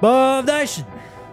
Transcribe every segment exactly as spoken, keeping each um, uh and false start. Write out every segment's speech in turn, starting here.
Bob Dyson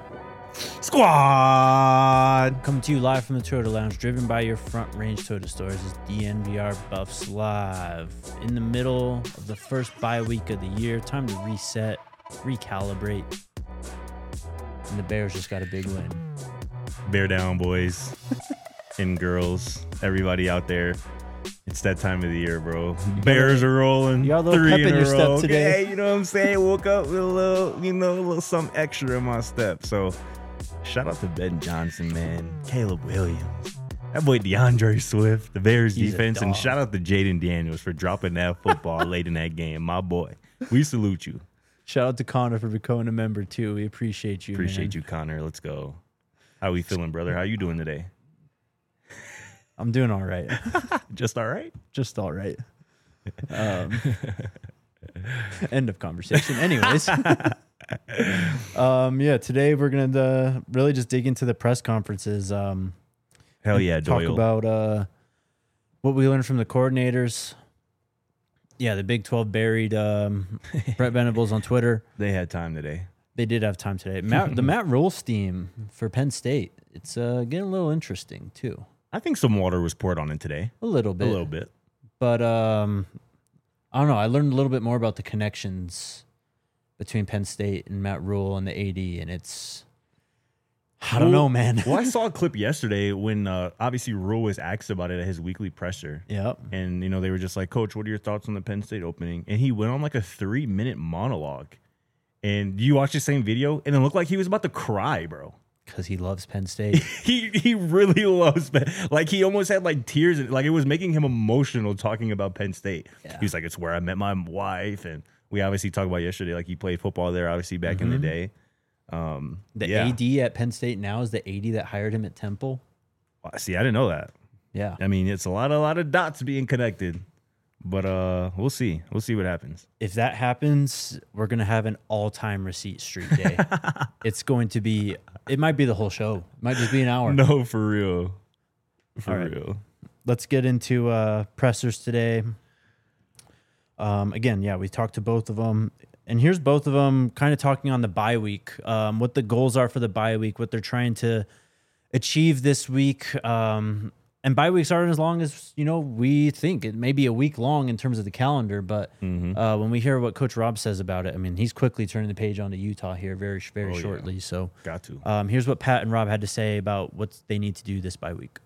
Squad. coming to you live from the Toyota Lounge, driven by your Front Range Toyota stores. Is D N V R Buffs live in the middle of the first bye week of the year. Time to reset, recalibrate, and the Bears just got a big win. Bear down, boys and girls, everybody out there. It's that time of the year, bro. Bears are rolling. You got a little three pep in in a your step row. today. Yeah, you know what I'm saying? Woke up with a little, you know, a little something extra in my step. So, shout out to Ben Johnson, man. Caleb Williams. That boy DeAndre Swift, the Bears He's a defense. And dog. shout out to Jaden Daniels for dropping that football late in that game. My boy. We salute you. Shout out to Connor for becoming a member too. We appreciate you. Appreciate man. you, Connor. Let's go. How we feeling, brother? How you doing today? I'm doing all right. Just all right? Just all right. Um, end of conversation. Anyways, um, yeah, today we're gonna uh, really just dig into the press conferences. Um, Hell yeah, talk Doyle. about uh, what we learned from the coordinators. Yeah, the Big twelve buried um, Brett Venables on Twitter. They had time today. They did have time today. Matt, the Matt Rule steam for Penn State. It's uh, getting a little interesting too. I think some water was poured on it today. A little bit. A little bit. But um, I don't know. I learned a little bit more about the connections between Penn State and Matt Rule and the A D, and it's I don't Well- know, man. Well, I saw a clip yesterday when uh, obviously Rule was asked about it at his weekly presser. Yep. And, you know, they were just like, Coach, what are your thoughts on the Penn State opening? And he went on like a three minute monologue. And you watch the same video and it looked like he was about to cry, bro. Because he loves Penn State. He he really loves Penn. Like he almost had like tears. in- Like it was making him emotional talking about Penn State. Yeah. He was like, it's where I met my wife. And we obviously talked about yesterday, like he played football there, obviously back in the day. Um, The yeah. A D at Penn State now is the A D that hired him at Temple. Wow, see, I didn't know that. Yeah. I mean, it's a lot, a lot of dots being connected, but uh, we'll see. We'll see what happens. If that happens, we're going to have an all-time receipt street day. It's going to be, it might be the whole show. It might just be an hour. No, for real, for All right. real. Let's get into uh, pressers today. Um, again, yeah, we talked to both of them. And here's both of them kind of talking on the bye week, um, what the goals are for the bye week, what they're trying to achieve this week. Um, and bye weeks aren't as long as, you know, we think. It may be a week long in terms of the calendar, but Mm-hmm. uh, when we hear what Coach Rob says about it, I mean, he's quickly turning the page on to Utah here very, very Oh, yeah. shortly. So Got to. um, here's what Pat and Rob had to say about what they need to do this bye week.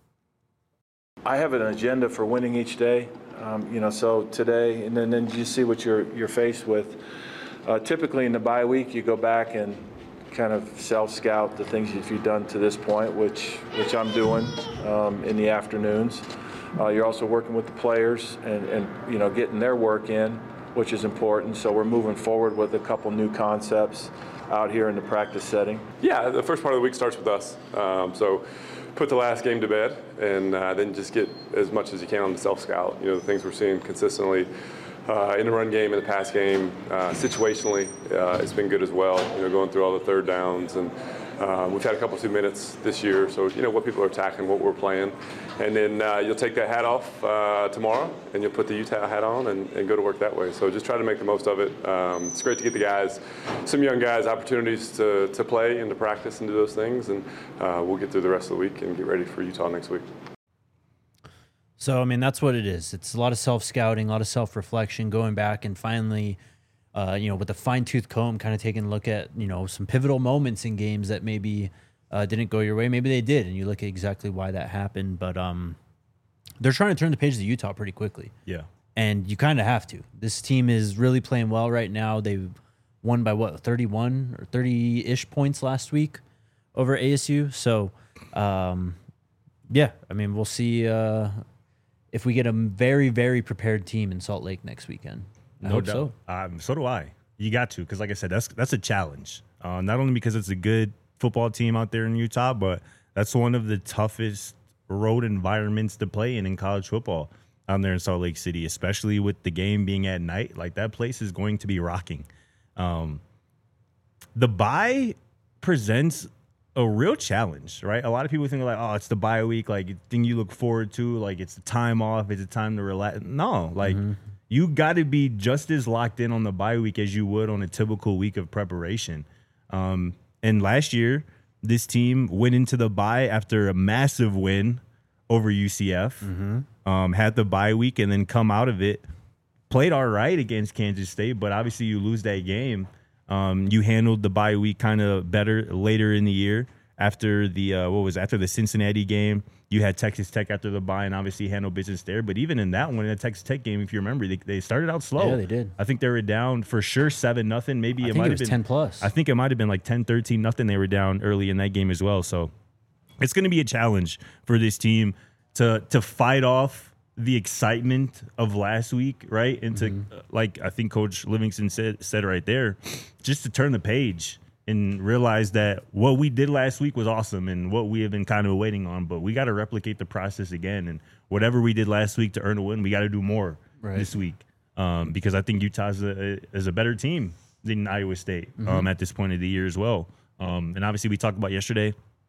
I have an agenda for winning each day, um, you know, so today, and then, then you see what you're, you're faced with. Uh, typically in the bye week, you go back and kind of self-scout the things that you've done to this point, which, which I'm doing um, in the afternoons. Uh, you're also working with the players and, and, you know, getting their work in, which is important. So we're moving forward with a couple new concepts out here in the practice setting. Yeah, the first part of the week starts with us. Um, so put the last game to bed and uh, then just get as much as you can on the self-scout. You know, the things we're seeing consistently uh, in the run game, in the pass game, uh, situationally, uh, it's been good as well. You know, going through all the third downs. And uh, we've had a couple two minutes this year. So, you know, what people are attacking, what we're playing. And then uh, you'll take that hat off uh, tomorrow and you'll put the Utah hat on and, and go to work that way. So just try to make the most of it. Um, it's great to get the guys, some young guys, opportunities to, to play and to practice and do those things. And uh, we'll get through the rest of the week and get ready for Utah next week. So, I mean, that's what it is. It's a lot of self-scouting, a lot of self-reflection, going back and finally, uh, you know, with a fine-tooth comb, kind of taking a look at, you know, some pivotal moments in games that maybe uh, didn't go your way. Maybe they did, and you look at exactly why that happened. But um, they're trying to turn the page to Utah pretty quickly. Yeah. And you kind of have to. This team is really playing well right now. They won by, what, thirty-one or thirty-ish points last week over A S U. So, um, yeah, I mean, we'll see uh, if we get a very, very prepared team in Salt Lake next weekend. I hope so. Um, so do I. You got to, because like I said, that's that's a challenge. Uh, not only because it's a good football team out there in Utah, but that's one of the toughest road environments to play in in college football out there in Salt Lake City, especially with the game being at night. Like, that place is going to be rocking. Um, the bye presents a real challenge, right? A lot of people think like, oh, it's the bye week, like thing you look forward to, like it's the time off, it's a time to relax. No, like mm-hmm. you got to be just as locked in on the bye week as you would on a typical week of preparation. Um, and last year, this team went into the bye after a massive win over U C F, mm-hmm. um, had the bye week, and then come out of it, played all right against Kansas State, but obviously you lose that game. Um, you handled the bye week kind of better later in the year after the uh, what was it, after the Cincinnati game. You had Texas Tech after the bye and obviously handled business there. But even in that one, in the Texas Tech game, if you remember, they, they started out slow. Yeah, they did. I think they were down for sure seven nothing. Maybe I it think might it have was been ten plus. I think it might have been like ten, thirteen nothing. They were down early in that game as well. So it's going to be a challenge for this team to to fight off the excitement of last week, right? And to, mm-hmm. like I think Coach Livingston said said right there, just to turn the page and realize that what we did last week was awesome and what we have been kind of waiting on, but we got to replicate the process again. And whatever we did last week to earn a win, we got to do more right. this week um, because I think Utah's a, is a better team than Iowa State mm-hmm. um, at this point of the year as well. Um, and obviously we talked about yesterday,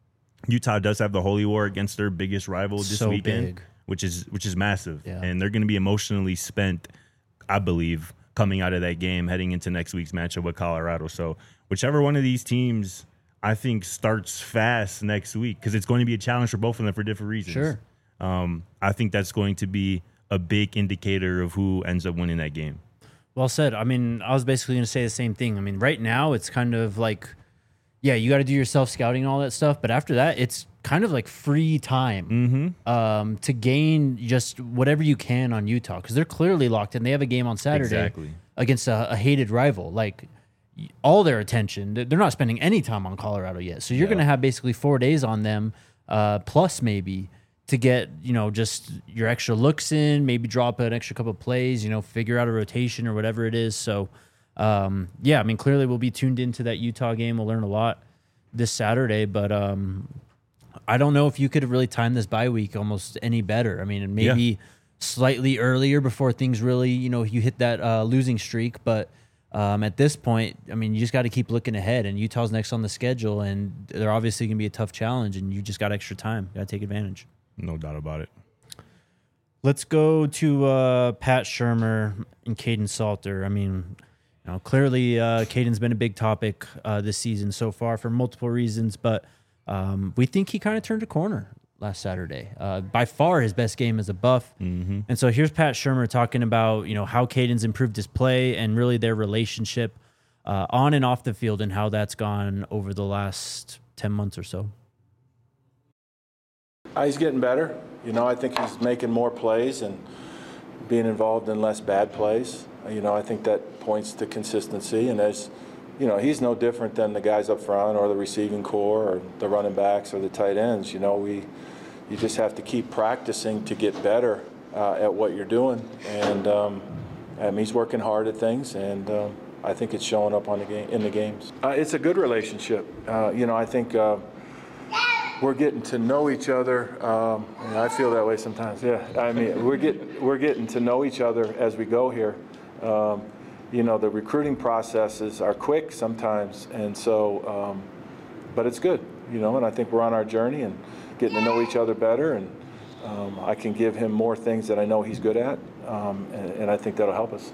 Utah does have the holy war against their biggest rival this so weekend, big. which is which is massive. Yeah. And they're going to be emotionally spent, I believe, coming out of that game, heading into next week's matchup with Colorado. So whichever one of these teams, I think, starts fast next week, because it's going to be a challenge for both of them for different reasons. Sure. Um, I think that's going to be a big indicator of who ends up winning that game. Well said. I mean, I was basically going to say the same thing. I mean, right now it's kind of like, yeah, you got to do your self-scouting and all that stuff. But after that, it's kind of like free time mm-hmm. um, to gain just whatever you can on Utah, because they're clearly locked in. They have a game on Saturday exactly. against a, a hated rival. Like, all their attention, they're not spending any time on Colorado yet. So you're yeah. going to have basically four days on them, uh, plus maybe to get, you know, just your extra looks in, maybe drop an extra couple of plays, you know, figure out a rotation or whatever it is. So, um, yeah, I mean, clearly we'll be tuned into that Utah game. We'll learn a lot this Saturday, but um, I don't know if you could have really timed this bye week almost any better. I mean, maybe yeah. slightly earlier before things really, you know, you hit that uh, losing streak, but Um, at this point, I mean, you just got to keep looking ahead, and Utah's next on the schedule, and they're obviously going to be a tough challenge, and you just got extra time. Got to take advantage. No doubt about it. Let's go to uh, Pat Shurmur and Caden Salter. I mean, you know, clearly uh, Caden's been a big topic uh, this season so far for multiple reasons, but um, we think he kind of turned a corner last Saturday. Uh, by far his best game as a Buff. Mm-hmm. And so here's Pat Shurmur talking about, you know, how Caden's improved his play and really their relationship uh, on and off the field and how that's gone over the last ten months or so. Uh, he's getting better. You know, I think he's making more plays and being involved in less bad plays. You know, I think that points to consistency. And as, you know, he's no different than the guys up front or the receiving core or the running backs or the tight ends. You know, we, you just have to keep practicing to get better uh, at what you're doing. And um, um, he's working hard at things, and um, I think it's showing up on the game in the games. Uh, it's a good relationship. Uh, you know, I think uh, we're getting to know each other. Um, and I feel that way sometimes. Yeah, I mean, we're get we're getting to know each other as we go here. Um, you know, the recruiting processes are quick sometimes, and so, um, but it's good. You know, and I think we're on our journey and getting to know each other better, and um, I can give him more things that I know he's good at, um, and, and I think that'll help us.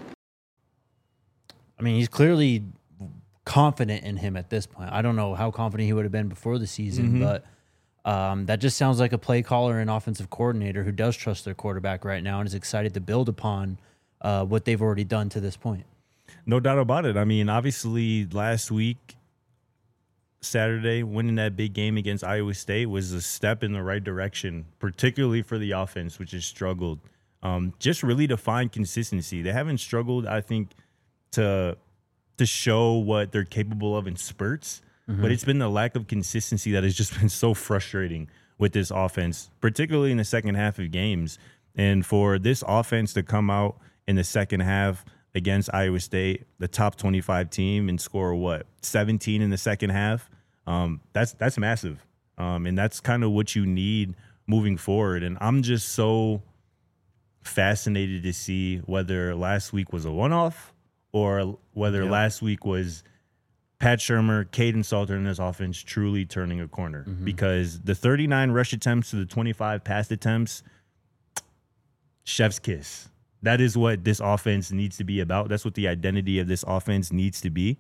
I mean, he's clearly confident in him at this point. I don't know how confident he would have been before the season, mm-hmm. but um, that just sounds like a play caller and offensive coordinator who does trust their quarterback right now and is excited to build upon uh, what they've already done to this point. No doubt about it. I mean, obviously last week, Saturday, winning that big game against Iowa State was a step in the right direction, particularly for the offense, which has struggled. Um, just really to find consistency. They haven't struggled, I think, to to show what they're capable of in spurts, mm-hmm. but it's been the lack of consistency that has just been so frustrating with this offense, particularly in the second half of games. And for this offense to come out in the second half against Iowa State, the top twenty-five team, and score what, seventeen in the second half. Um, that's that's massive, um, and that's kind of what you need moving forward. And I'm just so fascinated to see whether last week was a one-off or whether yep. last week was Pat Shurmur, Caden Salter, and his offense truly turning a corner. Mm-hmm. Because the thirty-nine rush attempts to the twenty-five pass attempts, chef's kiss. That is what this offense needs to be about. That's what the identity of this offense needs to be.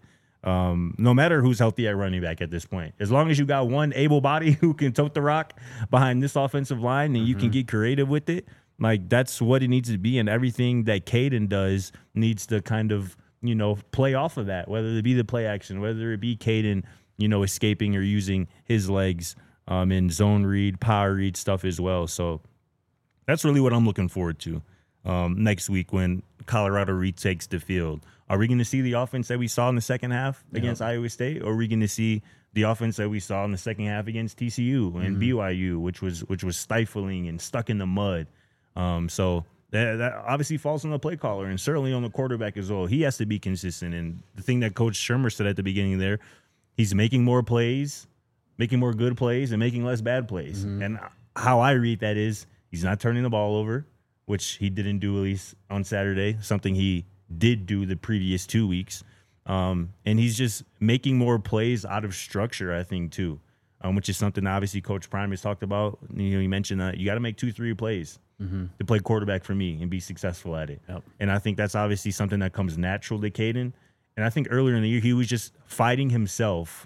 Um, no matter who's healthy at running back at this point, as long as you got one able body who can tote the rock behind this offensive line and mm-hmm. you can get creative with it, like that's what it needs to be. And everything that Caden does needs to kind of, you know, play off of that, whether it be the play action, whether it be Caden, you know, escaping or using his legs um, in zone read, power read stuff as well. So that's really what I'm looking forward to um, next week when Colorado retakes the field. Are we going to see the offense that we saw in the second half against yeah. Iowa State, or are we going to see the offense that we saw in the second half against T C U and mm-hmm. B Y U, which was which was stifling and stuck in the mud? Um, so that, that obviously falls on the play caller and certainly on the quarterback as well. He has to be consistent. And the thing that Coach Shurmur said at the beginning there, he's making more plays, making more good plays, and making less bad plays. Mm-hmm. And how I read that is he's not turning the ball over, which he didn't do at least on Saturday, something he did do the previous two weeks. Um, and he's just making more plays out of structure, I think, too, um, which is something obviously Coach Prime has talked about. You know, he mentioned that you got to make two, three plays mm-hmm. to play quarterback for me and be successful at it. Yep. And I think that's obviously something that comes natural to Caden. And I think earlier in the year, he was just fighting himself.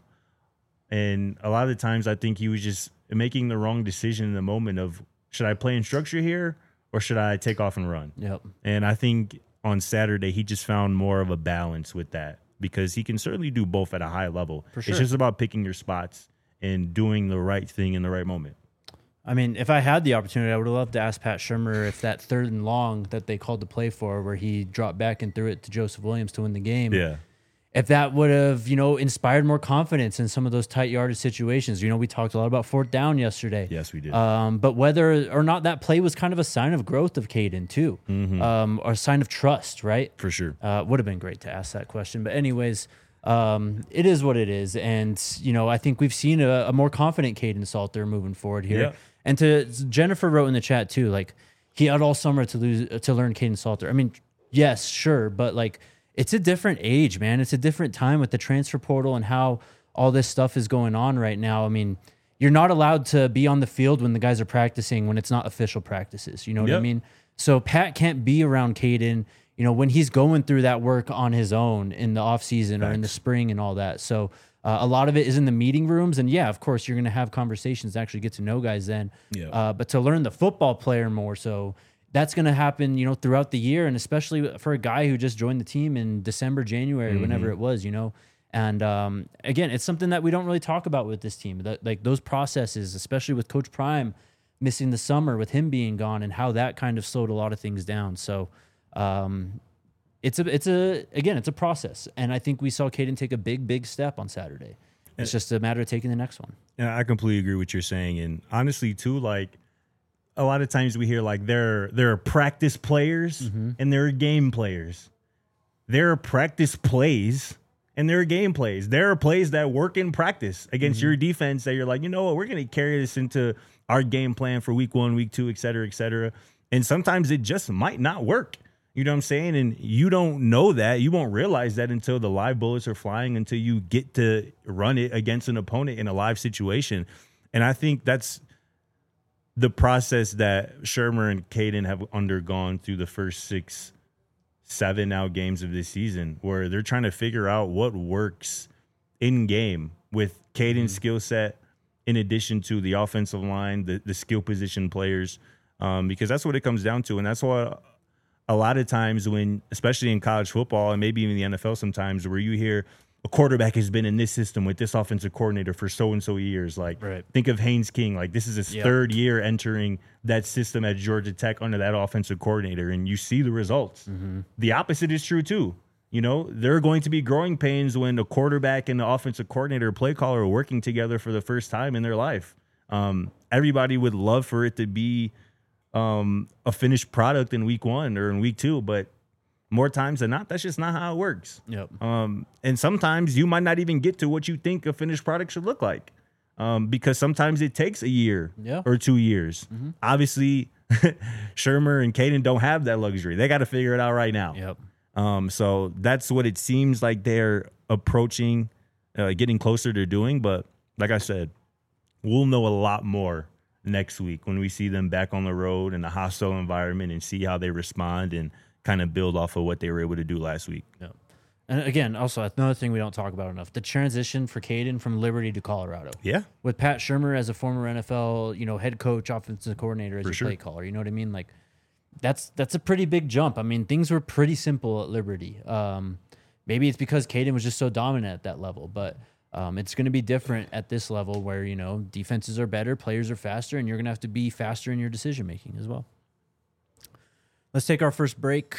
And a lot of the times I think he was just making the wrong decision in the moment of, should I play in structure here or should I take off and run? Yep. And I think on Saturday, he just found more of a balance with that because he can certainly do both at a high level. For sure. It's just about picking your spots and doing the right thing in the right moment. I mean, if I had the opportunity, I would have loved to ask Pat Shurmur if that third and long that they called the play for, where he dropped back and threw it to Joseph Williams to win the game. Yeah. If that would have, you know, inspired more confidence in some of those tight yardage situations. You know, we talked a lot about fourth down yesterday. Yes, we did. Um, but whether or not that play was kind of a sign of growth of Caden too, mm-hmm. um, or a sign of trust, right? For sure. Uh, would have been great to ask that question. But anyways, um, it is what it is. And, you know, I think we've seen a, a more confident Caden Salter moving forward here. Yeah. And to Jennifer wrote in the chat too, like he had all summer to lose to learn Caden Salter. I mean, yes, sure, but like, it's a different age, man. It's a different time with the transfer portal and how all this stuff is going on right now. I mean, you're not allowed to be on the field when the guys are practicing when it's not official practices. You know what yep. I mean? So Pat can't be around Caden, you know, when he's going through that work on his own in the off season or in the spring and all that. So uh, a lot of it is in the meeting rooms. And yeah, of course, you're going to have conversations to actually get to know guys then. Yep. Uh, but to learn the football player more so, that's going to happen, you know, throughout the year, and especially for a guy who just joined the team in December, January, mm-hmm. whenever it was, you know. And um, again, it's something that we don't really talk about with this team. That like those processes, especially with Coach Prime missing the summer, with him being gone, and how that kind of slowed a lot of things down. So um, it's a, it's a, again, it's a process, and I think we saw Caden take a big, big step on Saturday. It's just a matter of taking the next one. Yeah, I completely agree with what you're saying, and honestly, too, like. A lot of times we hear like there there are practice players mm-hmm. and there are game players. There are practice plays and there are game plays. There are plays that work in practice against mm-hmm. your defense that you're like, you know what, we're going to carry this into our game plan for week one, week two, et cetera, et cetera. And sometimes it just might not work. You know what I'm saying? And you don't know that. You won't realize that until the live bullets are flying, until you get to run it against an opponent in a live situation. And I think that's the process that Shurmur and Caden have undergone through the first six, seven now games of this season, where they're trying to figure out what works in game with Caden's mm-hmm. skill set, in addition to the offensive line, the, the skill position players, um, because that's what it comes down to. And that's why a lot of times when, especially in college football and maybe even the N F L sometimes, where you hear a quarterback has been in this system with this offensive coordinator for so-and-so years. Like, right. think of Haynes King. Like, this is his yep. third year entering that system at Georgia Tech under that offensive coordinator, and you see the results. Mm-hmm. The opposite is true, too. You know, there are going to be growing pains when the quarterback and the offensive coordinator, play caller, are working together for the first time in their life. Um, everybody would love for it to be um, a finished product in week one or in week two, but more times than not, that's just not how it works. Yep. Um, and sometimes you might not even get to what you think a finished product should look like, um, because sometimes it takes a year yeah. or two years. Mm-hmm. Obviously, Shurmur and Caden don't have that luxury. They got to figure it out right now. Yep. Um, so that's what it seems like they're approaching, uh, getting closer to doing. But like I said, we'll know a lot more next week when we see them back on the road in a hostile environment and see how they respond and kind of build off of what they were able to do last week. Yeah. And again, also another thing we don't talk about enough: the transition for Caden from Liberty to Colorado. Yeah. With Pat Shurmur as a former N F L, you know, head coach, offensive coordinator as For your sure. play caller. You know what I mean? Like, that's that's a pretty big jump. I mean, things were pretty simple at Liberty. Um, maybe it's because Caden was just so dominant at that level, but um, it's going to be different at this level where, you know, defenses are better, players are faster, and you're going to have to be faster in your decision making as well. Let's take our first break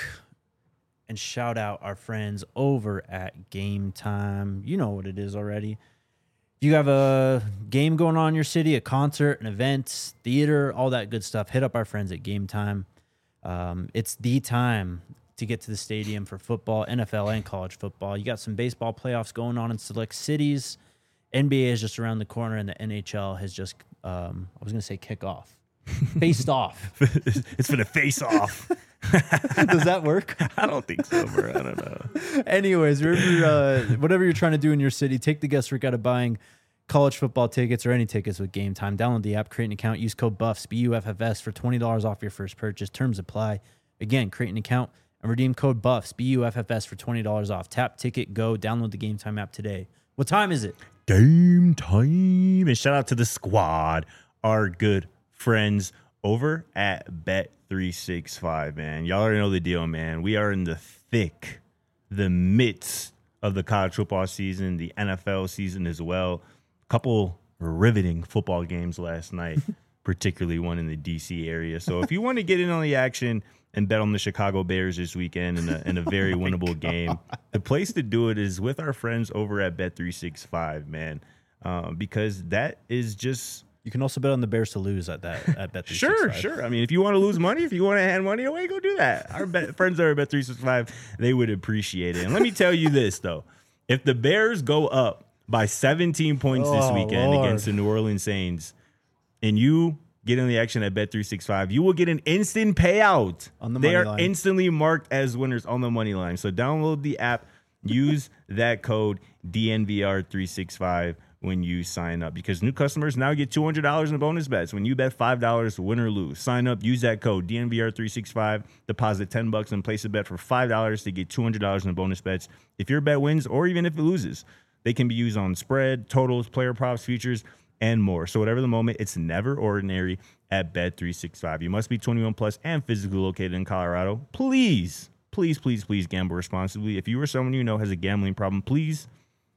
and shout out our friends over at Game Time. You know what it is already. You have a game going on in your city, a concert, an event, theater, all that good stuff. Hit up our friends at Game Time. Um, it's the time to get to the stadium for football, N F L, and college football. You got some baseball playoffs going on in select cities. N B A is just around the corner, and the N H L has just, um, I was going to say kick off. Faced off. It's for the face off. Does that work? I don't think so, bro. I don't know. Anyways, wherever you're, uh, whatever you're trying to do in your city, take the guesswork out of buying college football tickets or any tickets with Game Time. Download the app, create an account, use code BUFFS, B U F F S for twenty dollars off your first purchase. Terms apply. Again, create an account and redeem code BUFFS, B U F F S for twenty dollars off. Tap, ticket, go. Download the Game Time app today. What time is it? Game time. And shout out to the squad, our good friends over at Bet three sixty-five, man. Y'all already know the deal, man. We are in the thick, the midst of the college football season, the N F L season as well. Couple riveting football games last night, particularly one in the D C area. So if you want to get in on the action and bet on the Chicago Bears this weekend in a, in a very oh winnable God. game, the place to do it is with our friends over at Bet three sixty-five, man, um, because that is just... You can also bet on the Bears to lose at that at Bet three Sure, sixty-five. sure. I mean, if you want to lose money, if you want to hand money away, go do that. Our bet, friends are at Bet three sixty-five. They would appreciate it. And let me tell you this, though. If the Bears go up by seventeen points this Oh, weekend Lord. against the New Orleans Saints, and you get in the action at Bet three sixty-five, you will get an instant payout. On the they money are line. instantly marked as winners on the money line. So download the app. Use that code D N V R three sixty-five when you sign up, because new customers now get two hundred dollars in bonus bets when you bet five dollars, win or lose. Sign up, use that code D N V R three sixty-five, deposit ten bucks and place a bet for five dollars to get two hundred dollars in bonus bets. If your bet wins or even if it loses, they can be used on spread, totals, player props, futures, and more. So whatever the moment, it's never ordinary at Bet three sixty-five. You must be twenty-one plus and physically located in Colorado. Please, please, please, please gamble responsibly. If you or someone you know has a gambling problem, please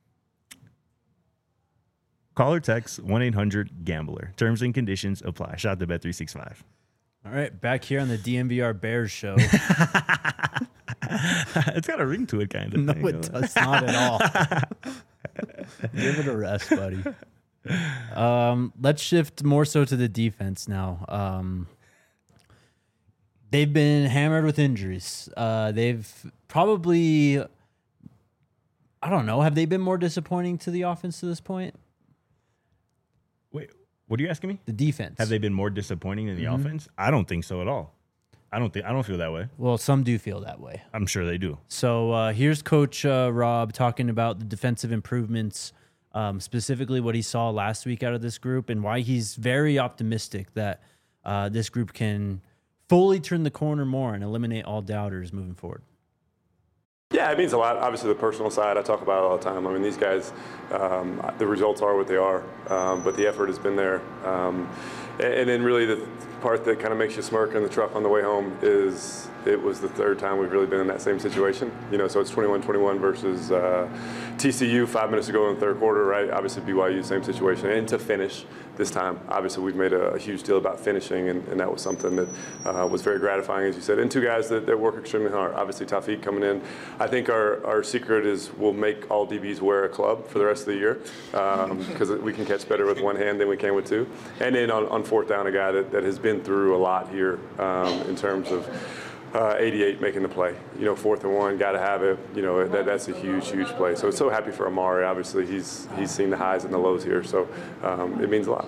call or text one eight hundred gambler. Terms and conditions apply. Shout out to Bet three sixty-five. All right, back here on the D N V R Bears show. It's got a ring to it, kind of. No, thing, it does not at all. Give it a rest, buddy. Um, let's shift more so to the defense now. Um, they've been hammered with injuries. Uh, they've probably, I don't know, have they been more disappointing to the offense to this point? Wait, what are you asking me? The defense. Have they been more disappointing than the Mm-hmm. offense? I don't think so at all. I don't think I don't feel that way. Well, some do feel that way. I'm sure they do. So uh, here's Coach uh, Rob talking about the defensive improvements, um, specifically what he saw last week out of this group and why he's very optimistic that uh, this group can fully turn the corner more and eliminate all doubters moving forward. Yeah, it means a lot. Obviously, the personal side, I talk about it all the time. I mean, these guys, um, the results are what they are, um, but the effort has been there. Um, and, and then really the part that kind of makes you smirk in the truck on the way home is it was the third time we've really been in that same situation. You know, so it's twenty-one twenty-one versus uh, T C U five minutes ago in the third quarter, right? Obviously, B Y U, same situation. And to finish this time, obviously, we've made a, a huge deal about finishing, and, and that was something that uh, was very gratifying, as you said. And two guys that, that work extremely hard. Obviously, Taufeeq coming in. I think our, our secret is we'll make all D Bs wear a club for the rest of the year because um, we can catch better with one hand than we can with two. And then on, on fourth down, a guy that, that has been through a lot here um, in terms of Uh, eighty-eight making the play. You know, fourth and one, got to have it. You know, that, that's a huge, huge play. So, so happy for Amari. Obviously, he's he's seen the highs and the lows here, so um, it means a lot.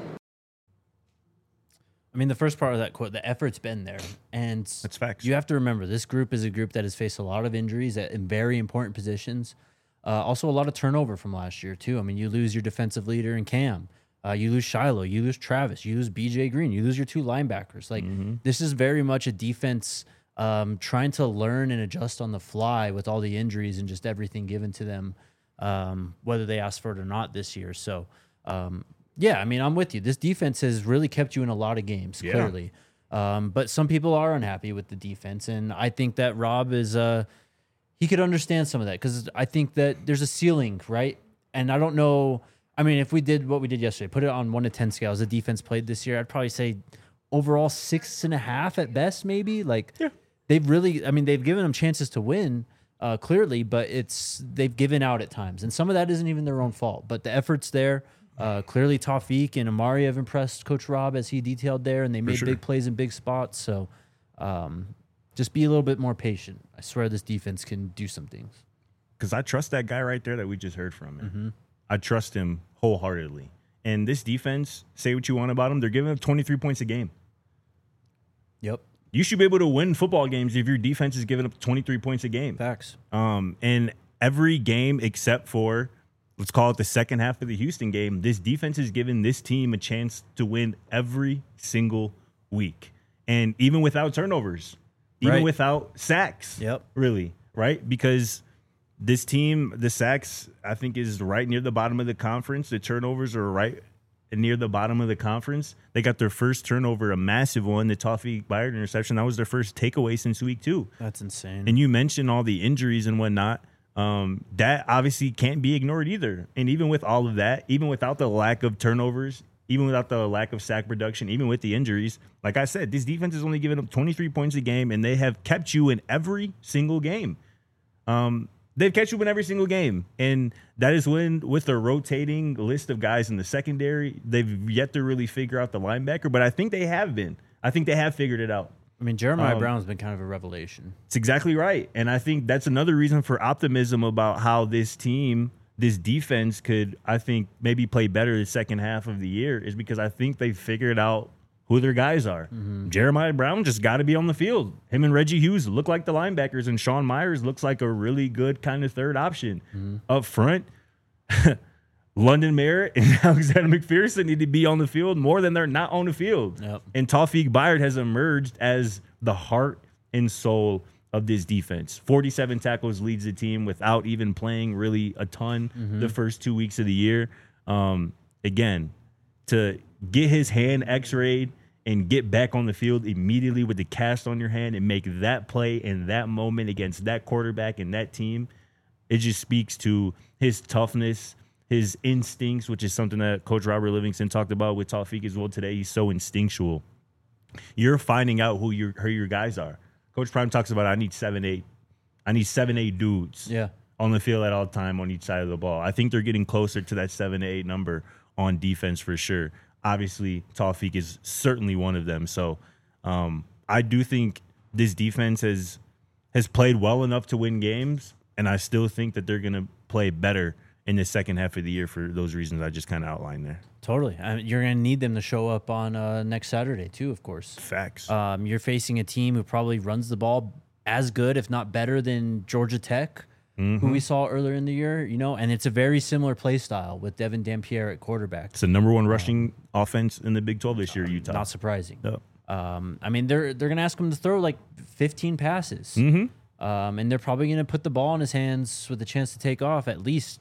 I mean, the first part of that quote, the effort's been there. And That's facts. You have to remember, this group is a group that has faced a lot of injuries at, in very important positions. Uh, also, a lot of turnover from last year, too. I mean, you lose your defensive leader in Cam. Uh, you lose Shiloh. You lose Travis. You lose B J Green. You lose your two linebackers. Like, Mm-hmm. this is very much a defense um, trying to learn and adjust on the fly with all the injuries and just everything given to them, um, whether they asked for it or not this year. So, um, yeah, I mean, I'm with you. This defense has really kept you in a lot of games, Yeah. clearly. Um, but some people are unhappy with the defense, and I think that Rob is uh, he could understand some of that because I think that there's a ceiling, right? And I don't know. I mean, if we did what we did yesterday, put it on one to ten scales, the defense played this year, I'd probably say overall six and a half at best, maybe. Like Yeah. they've really, I mean, they've given them chances to win, uh, clearly, but it's they've given out at times, and some of that isn't even their own fault. But the effort's there. Uh, clearly, Tawfiq and Amari have impressed Coach Rob as he detailed there, and they made sure. big plays in big spots. So, um, just be a little bit more patient. I swear, this defense can do some things. Because I trust that guy right there that we just heard from. Man. Mm-hmm. I trust him wholeheartedly. And this defense, say what you want about them, they're giving up twenty-three points a game. Yep, You should be able to win football games if your defense is giving up twenty-three points a game. facts. Um, and every game except for, let's call it the second half of the Houston game, this defense has given this team a chance to win every single week. And even without turnovers, even Right. without sacks, Yep. really, right? Because this team, the sacks, I think, is right near the bottom of the conference. The turnovers are right near the bottom of the conference. They got their first turnover, a massive one, the Tawfiq Byard interception. That was their first takeaway since week two. That's insane. And you mentioned all the injuries and whatnot. Um, that obviously can't be ignored either. And even with all of that, even without the lack of turnovers, even without the lack of sack production, even with the injuries, like I said, this defense is only giving up twenty-three points a game, and they have kept you in every single game. Um, they've kept you in every single game. And that is when, with a rotating list of guys in the secondary, they've yet to really figure out the linebacker. But I think they have been. I think they have figured it out. I mean, Jeremiah um, Brown's been kind of a revelation. It's exactly right. And I think that's another reason for optimism about how this team, this defense could, I think, maybe play better the second half of the year is because I think they figured out who their guys are. Mm-hmm. Jeremiah Brown just got to be on the field. Him and Reggie Hughes look like the linebackers, and Sean Myers looks like a really good kind of third option. Mm-hmm. Up front, London Merritt and Alexander McPherson need to be on the field more than they're not on the field. Yep. And Tawfiq Byard has emerged as the heart and soul of this defense. forty-seven tackles leads the team without even playing really a ton Mm-hmm. the first two weeks of the year. Um, again, to get his hand x-rayed and get back on the field immediately with the cast on your hand and make that play in that moment against that quarterback and that team, it just speaks to his toughness, his instincts, which is something that Coach Robert Livingston talked about with Tawfiq as well today. He's so instinctual. You're finding out who your who your guys are. Coach Prime talks about, I need seven, eight. I need seven, eight dudes Yeah. on the field at all time on each side of the ball. I think they're getting closer to that seven to eight number on defense for sure. Obviously, Tawfiq is certainly one of them. So um, I do think this defense has has played well enough to win games, and I still think that they're going to play better in the second half of the year for those reasons I just kind of outlined there. Totally. I mean, you're going to need them to show up on uh, next Saturday, too, of course. Facts. Um, you're facing a team who probably runs the ball as good, if not better, than Georgia Tech, who we saw earlier in the year, you know, and it's a very similar play style with Devin Dampierre at quarterback. It's the number one rushing offense in the Big twelve this year, Utah. Not surprising. Yep. Um, I mean, they're they're going to ask him to throw like fifteen passes. Mm-hmm. Um, and they're probably going to put the ball in his hands with a chance to take off at least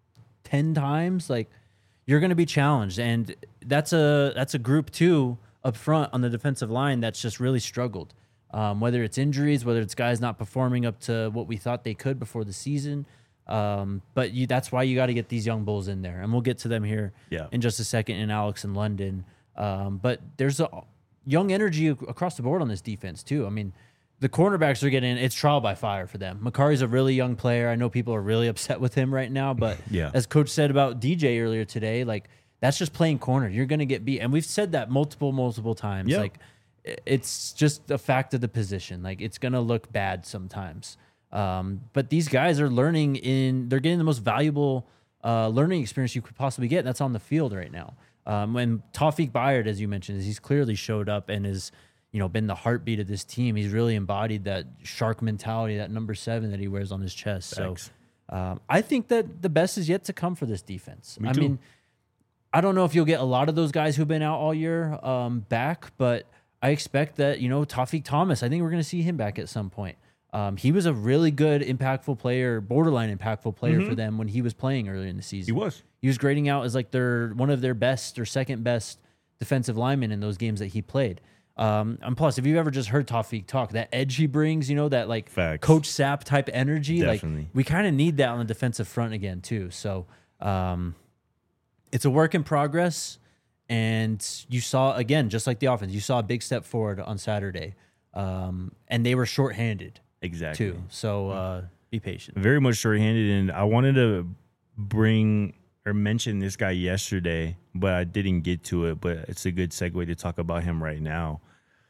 ten times. Like, you're going to be challenged, and that's a that's a group too up front on the defensive line that's just really struggled. Um, whether it's injuries, whether it's guys not performing up to what we thought they could before the season, um, but you, that's why you got to get these young bulls in there, and we'll get to them here Yeah. in just a second in Alex and London. Um, but there's a young energy ac- across the board on this defense too. I mean, the cornerbacks are getting, it's trial by fire for them. Makari's a really young player. I know people are really upset with him right now, but Yeah. as Coach said about D J earlier today, like, that's just playing corner. You're going to get beat. And we've said that multiple, multiple times. Yeah. Like, i- it's just a fact of the position. Like, it's going to look bad sometimes. Um, but these guys are learning in, they're getting the most valuable uh, learning experience you could possibly get. And that's on the field right now. Um, when Tawfiq Byard, as you mentioned, is he's clearly showed up and is, you know, been the heartbeat of this team. He's really embodied that shark mentality, that number seven that he wears on his chest. Thanks. So um, I think that the best is yet to come for this defense. Me I too. mean, I don't know if you'll get a lot of those guys who've been out all year um, back, but I expect that, you know, Tawfiq Thomas, I think we're going to see him back at some point. Um, he was a really good, impactful player, borderline impactful player mm-hmm. for them when he was playing earlier in the season. He was. He was grading out as like their one of their best or second best defensive linemen in those games that he played. Um, and plus, if you've ever just heard Tawfiq talk, that edge he brings, you know, that like Facts. Coach Sapp type energy, Definitely. like we kind of need that on the defensive front again too. So um, it's a work in progress. And you saw, again, just like the offense, you saw a big step forward on Saturday. Um, and they were shorthanded. Exactly. Too. So uh, be patient. Very much shorthanded. And I wanted to bring or mention this guy yesterday, but I didn't get to it. But it's a good segue to talk about him right now.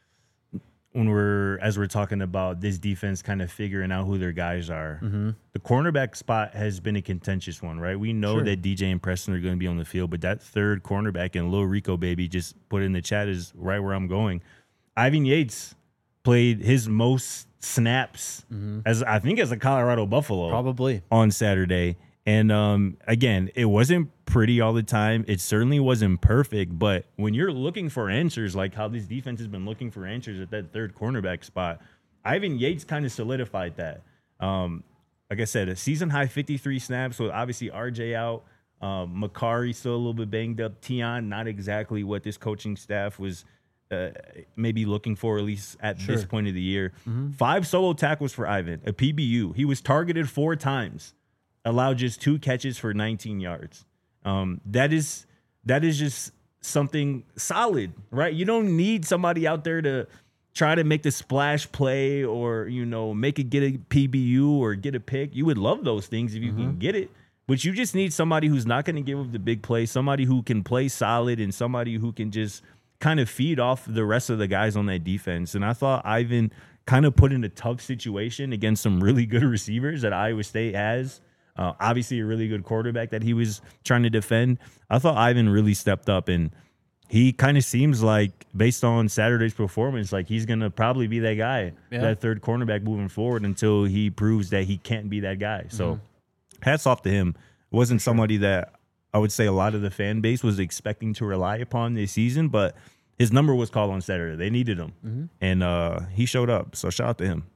When we're, as we're talking about this defense kind of figuring out who their guys are, mm-hmm. the cornerback spot has been a contentious one, right? We know sure. that D J and Preston are going to be on the field, but that third cornerback, and Lil Rico Baby just put in the chat, is right where I'm going. Ivan Yates played his most snaps mm-hmm. as I think as a Colorado Buffalo probably on Saturday. And um, again, it wasn't pretty all the time. It certainly wasn't perfect. But when you're looking for answers, like how this defense has been looking for answers at that third cornerback spot, Ivan Yates kind of solidified that. Um, like I said, a season high fifty-three snaps. So obviously R J out, um, Makari still a little bit banged up. Tion, not exactly what this coaching staff was uh, maybe looking for, at least at sure. this point of the year. Mm-hmm. Five solo tackles for Ivan, a P B U. He was targeted four times. Allowed just two catches for nineteen yards. Um, that is that is just something solid, right? You don't need somebody out there to try to make the splash play or, you know, make it get a P B U or get a pick. You would love those things if you mm-hmm. can get it, but you just need somebody who's not going to give up the big play, somebody who can play solid, and somebody who can just kind of feed off the rest of the guys on that defense. And I thought Ivan kind of put in a tough situation against some really good receivers that Iowa State has. Uh, obviously, a really good quarterback that he was trying to defend. I thought Ivan really stepped up, and he kind of seems like, based on Saturday's performance, like he's going to probably be that guy, yeah. that third cornerback moving forward until he proves that he can't be that guy. So mm-hmm. hats off to him. It wasn't somebody that I would say a lot of the fan base was expecting to rely upon this season, but his number was called on Saturday. They needed him, mm-hmm. and uh, he showed up. So shout out to him.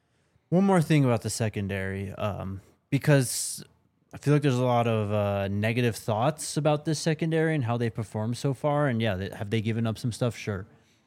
One more thing about the secondary. Um Because I feel like there's a lot of uh, negative thoughts about this secondary and how they performed so far. And yeah, they, have they given up some stuff? Sure.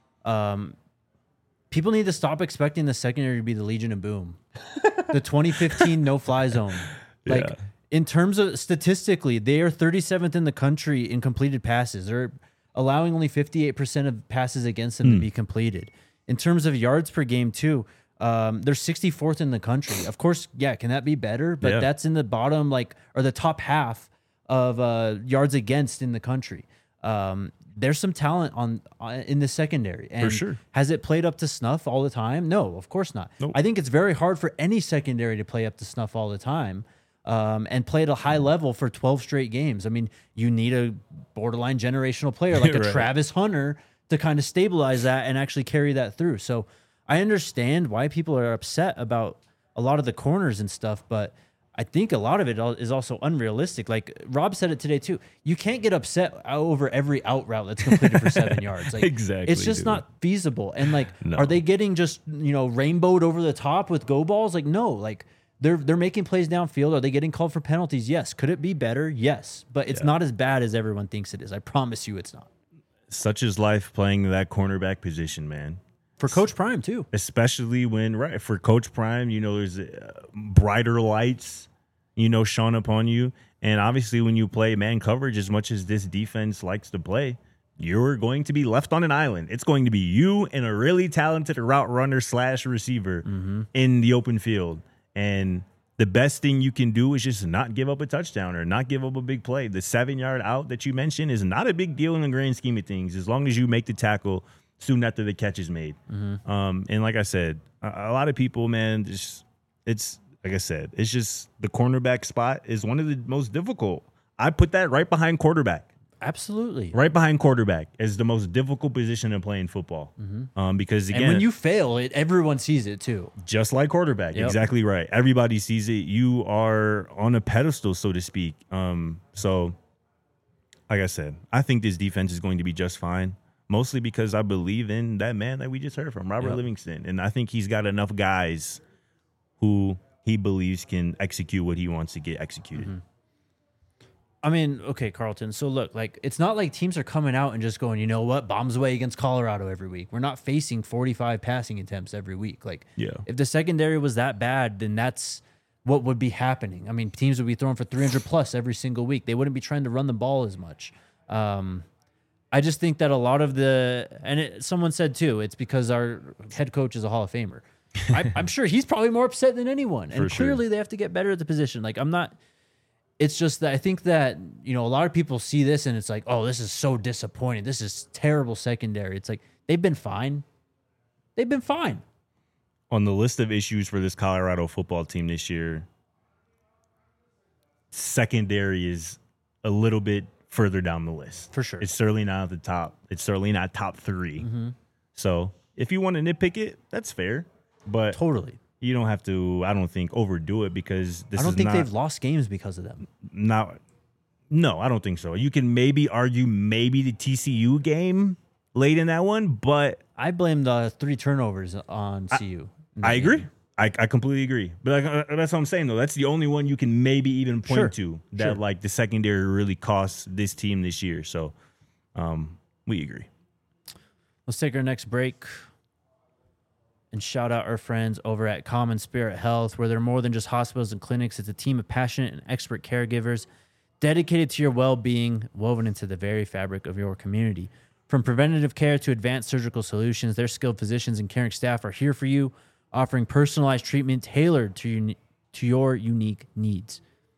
Um, people need to stop expecting the secondary to be the Legion of Boom, the twenty fifteen no-fly zone. Like yeah. in terms of statistically, they are thirty-seventh in the country in completed passes. They're allowing only fifty-eight percent of passes against them mm. to be completed. In terms of yards per game, too. Um, they're sixty-fourth in the country. Of course, yeah, can that be better? But yeah. that's in the bottom, like, or the top half of uh, yards against in the country. Um, there's some talent on uh, in the secondary. And for sure. Has it played up to snuff all the time? No, of course not. Nope. I think it's very hard for any secondary to play up to snuff all the time um, and play at a high level for twelve straight games. I mean, you need a borderline generational player like right. a Travis Hunter to kind of stabilize that and actually carry that through. So I understand why people are upset about a lot of the corners and stuff, but I think a lot of it is also unrealistic. Like Rob said it today too. You can't get upset over every out route that's completed for seven yards. Like, exactly. It's just dude. not feasible. And like, no. are they getting just, you know, rainbowed over the top with go balls? Like, no, like they're, they're making plays downfield. Are they getting called for penalties? Yes. Could it be better? Yes. But it's yeah. not as bad as everyone thinks it is. I promise you it's not. Such is life playing that cornerback position, man. For Coach Prime, too. Especially when, right, for Coach Prime, you know, there's uh, brighter lights, you know, shone upon you. And obviously when you play man coverage, as much as this defense likes to play, you're going to be left on an island. It's going to be you and a really talented route runner slash receiver mm-hmm. in the open field. And the best thing you can do is just not give up a touchdown or not give up a big play. The seven-yard out that you mentioned is not a big deal in the grand scheme of things, as long as you make the tackle soon after the catch is made. Mm-hmm. Um, and like I said, a, a lot of people, man, just, it's, like I said, it's just the cornerback spot is one of the most difficult. I put that right behind quarterback. Absolutely. Right behind quarterback is the most difficult position to play in football. Mm-hmm. Um, because, again, and when you fail it, everyone sees it too. Just like quarterback. Yep. Exactly right. Everybody sees it. You are on a pedestal, so to speak. Um, so, like I said, I think this defense is going to be just fine. mostly because I believe in that man that we just heard from, Robert Yep. Livingston. And I think he's got enough guys who he believes can execute what he wants to get executed. Mm-hmm. I mean, okay, Carlton. So look, like it's not like teams are coming out and just going, you know what, bombs away against Colorado every week. We're not facing forty-five passing attempts every week. Like, Yeah. if the secondary was that bad, then that's what would be happening. I mean, teams would be throwing for three hundred plus every single week. They wouldn't be trying to run the ball as much. Um, I just think that a lot of the, and it, someone said too, it's because our head coach is a Hall of Famer. I, I'm sure he's probably more upset than anyone. And For sure. clearly they have to get better at the position. Like, I'm not. It's just that I think that, you know, a lot of people see this and it's like, oh, this is so disappointing. This is terrible secondary. It's like, they've been fine. They've been fine. On the list of issues for this Colorado football team this year, secondary is a little bit further down the list. For sure. It's certainly not at the top. It's certainly not top three. Mm-hmm. So if you want to nitpick it, that's fair. But Totally. you don't have to, I don't think, overdo it because this I don't is think not, they've lost games because of them. not. No, I don't think so. You can maybe argue maybe the T C U game late in that one, but I blame the three turnovers on C U. in that I agree. game. I, I completely agree. But like, uh, that's what I'm saying, though. That's the only one you can maybe even point Sure. to that, Sure. like, the secondary really cost this team this year. So um, we agree. Let's take our next break and shout out our friends over at Common Spirit Health, where they're more than just hospitals and clinics. It's a team of passionate and expert caregivers dedicated to your well-being, woven into the very fabric of your community. From preventative care to advanced surgical solutions, their skilled physicians and caring staff are here for you, offering personalized treatment tailored to your, to your unique needs.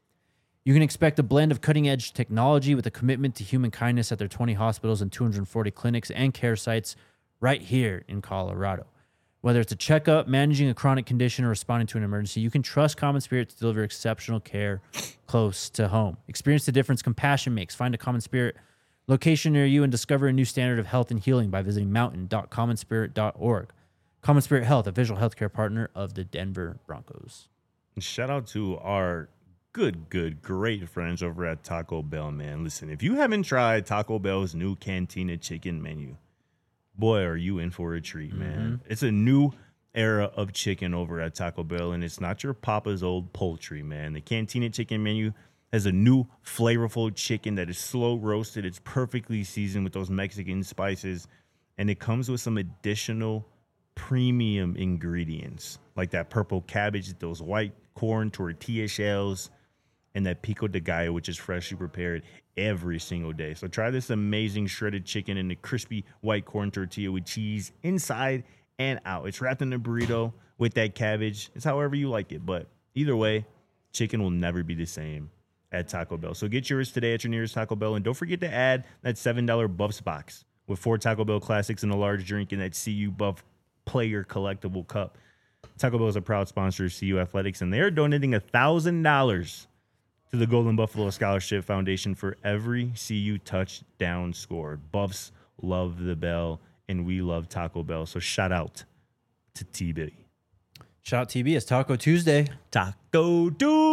You can expect a blend of cutting-edge technology with a commitment to human kindness at their twenty hospitals and two hundred forty clinics and care sites right here in Colorado. Whether it's a checkup, managing a chronic condition, or responding to an emergency, you can trust Common Spirit to deliver exceptional care close to home. Experience the difference compassion makes. Find a Common Spirit location near you and discover a new standard of health and healing by visiting mountain dot common spirit dot org. Common Spirit Health, a visual healthcare partner of the Denver Broncos. And shout out to our good, good, great friends over at Taco Bell, man. Listen, if you haven't tried Taco Bell's new Cantina chicken menu, boy, are you in for a treat, man. It's a new era of chicken over at Taco Bell, and it's not your papa's old poultry, man. The Cantina chicken menu has a new flavorful chicken that is slow roasted. It's perfectly seasoned with those Mexican spices, and it comes with some additional premium ingredients like that purple cabbage, those white corn tortilla shells, and that pico de gallo, which is freshly prepared every single day. So try this amazing shredded chicken and the crispy white corn tortilla with cheese inside and out. It's wrapped in a burrito with that cabbage. It's however you like it, but either way, chicken will never be the same at Taco Bell. So get yours today at your nearest Taco Bell, and don't forget to add that seven dollar Buffs box with four Taco Bell classics and a large drink in that C U Buff player collectible cup. Taco Bell is a proud sponsor of C U Athletics, and they're donating one thousand dollars to the Golden Buffalo Scholarship Foundation for every C U touchdown scored. Buffs love the Bell, and we love Taco Bell. So shout out to T B. Shout out T B. It's Taco Tuesday. Taco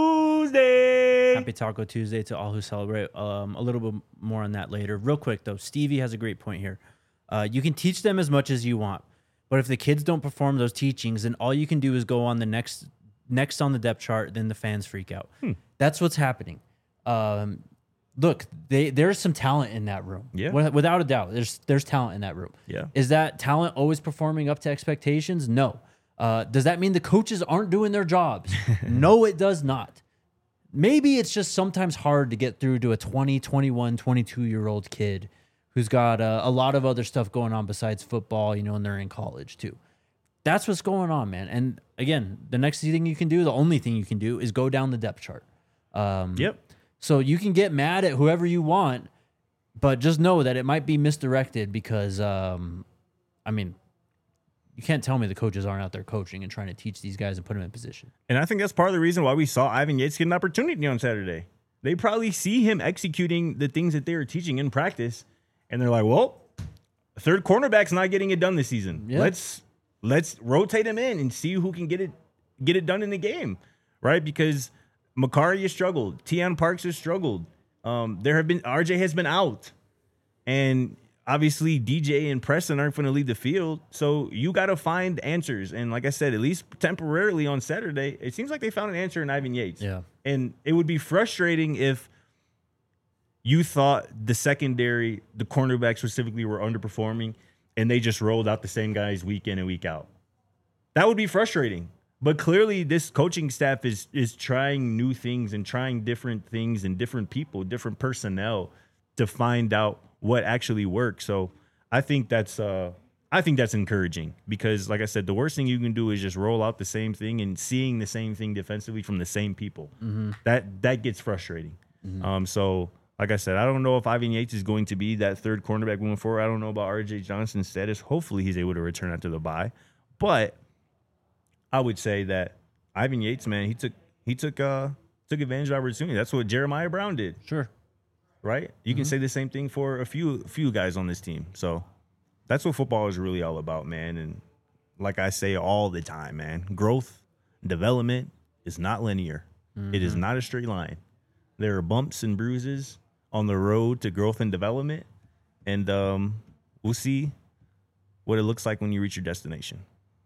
Tuesday. Happy Taco Tuesday to all who celebrate. Um, a little bit more on that later. Real quick, though, Stevie has a great point here. Uh, you can teach them as much as you want, but if the kids don't perform those teachings, then all you can do is go on the next next on the depth chart, then the fans freak out. Hmm. That's what's happening. Um, look, they, there's some talent in that room. Yeah. Without a doubt, there's there's talent in that room. Yeah. Is that talent always performing up to expectations? No. Uh, does that mean the coaches aren't doing their jobs? No, it does not. Maybe it's just sometimes hard to get through to a twenty, twenty-one, twenty-two-year-old kid who's got uh, a lot of other stuff going on besides football, you know, and they're in college too. That's what's going on, man. And again, the next thing you can do, the only thing you can do is go down the depth chart. Um, Yep. So you can get mad at whoever you want, but just know that it might be misdirected because, um, I mean, you can't tell me the coaches aren't out there coaching and trying to teach these guys and put them in position. And I think that's part of the reason why we saw Ivan Yates get an opportunity on Saturday. They probably see him executing the things that they were teaching in practice, and they're like, well, third cornerback's not getting it done this season. Yeah. Let's let's rotate him in and see who can get it get it done in the game, right? Because Makari has struggled. Teion Parks has struggled. Um, there have been R J has been out, and obviously D J and Preston aren't going to leave the field. So you got to find answers. And like I said, at least temporarily on Saturday, it seems like they found an answer in Ivan Yates. Yeah. And it would be frustrating if you thought the secondary, the cornerbacks specifically, were underperforming and they just rolled out the same guys week in and week out. That would be frustrating. But clearly this coaching staff is is trying new things and trying different things and different people, different personnel to find out what actually works. So I think that's uh, I think that's encouraging because, like I said, the worst thing you can do is just roll out the same thing and seeing the same thing defensively from the same people. Mm-hmm. That that gets frustrating. Mm-hmm. Um, so, like I said, I don't know if Ivan Yates is going to be that third cornerback moving forward. I don't know about R J Johnson's status. Hopefully he's able to return after the bye. But I would say that Ivan Yates, man, he took he took uh, took advantage of opportunity. That's what Jeremiah Brown did. Sure. Right? You mm-hmm. can say the same thing for a few few guys on this team. So that's what football is really all about, man. And like I say all the time, man, growth, development is not linear. Mm-hmm. It is not a straight line. There are bumps and bruises on the road to growth and development. And um, we'll see what it looks like when you reach your destination.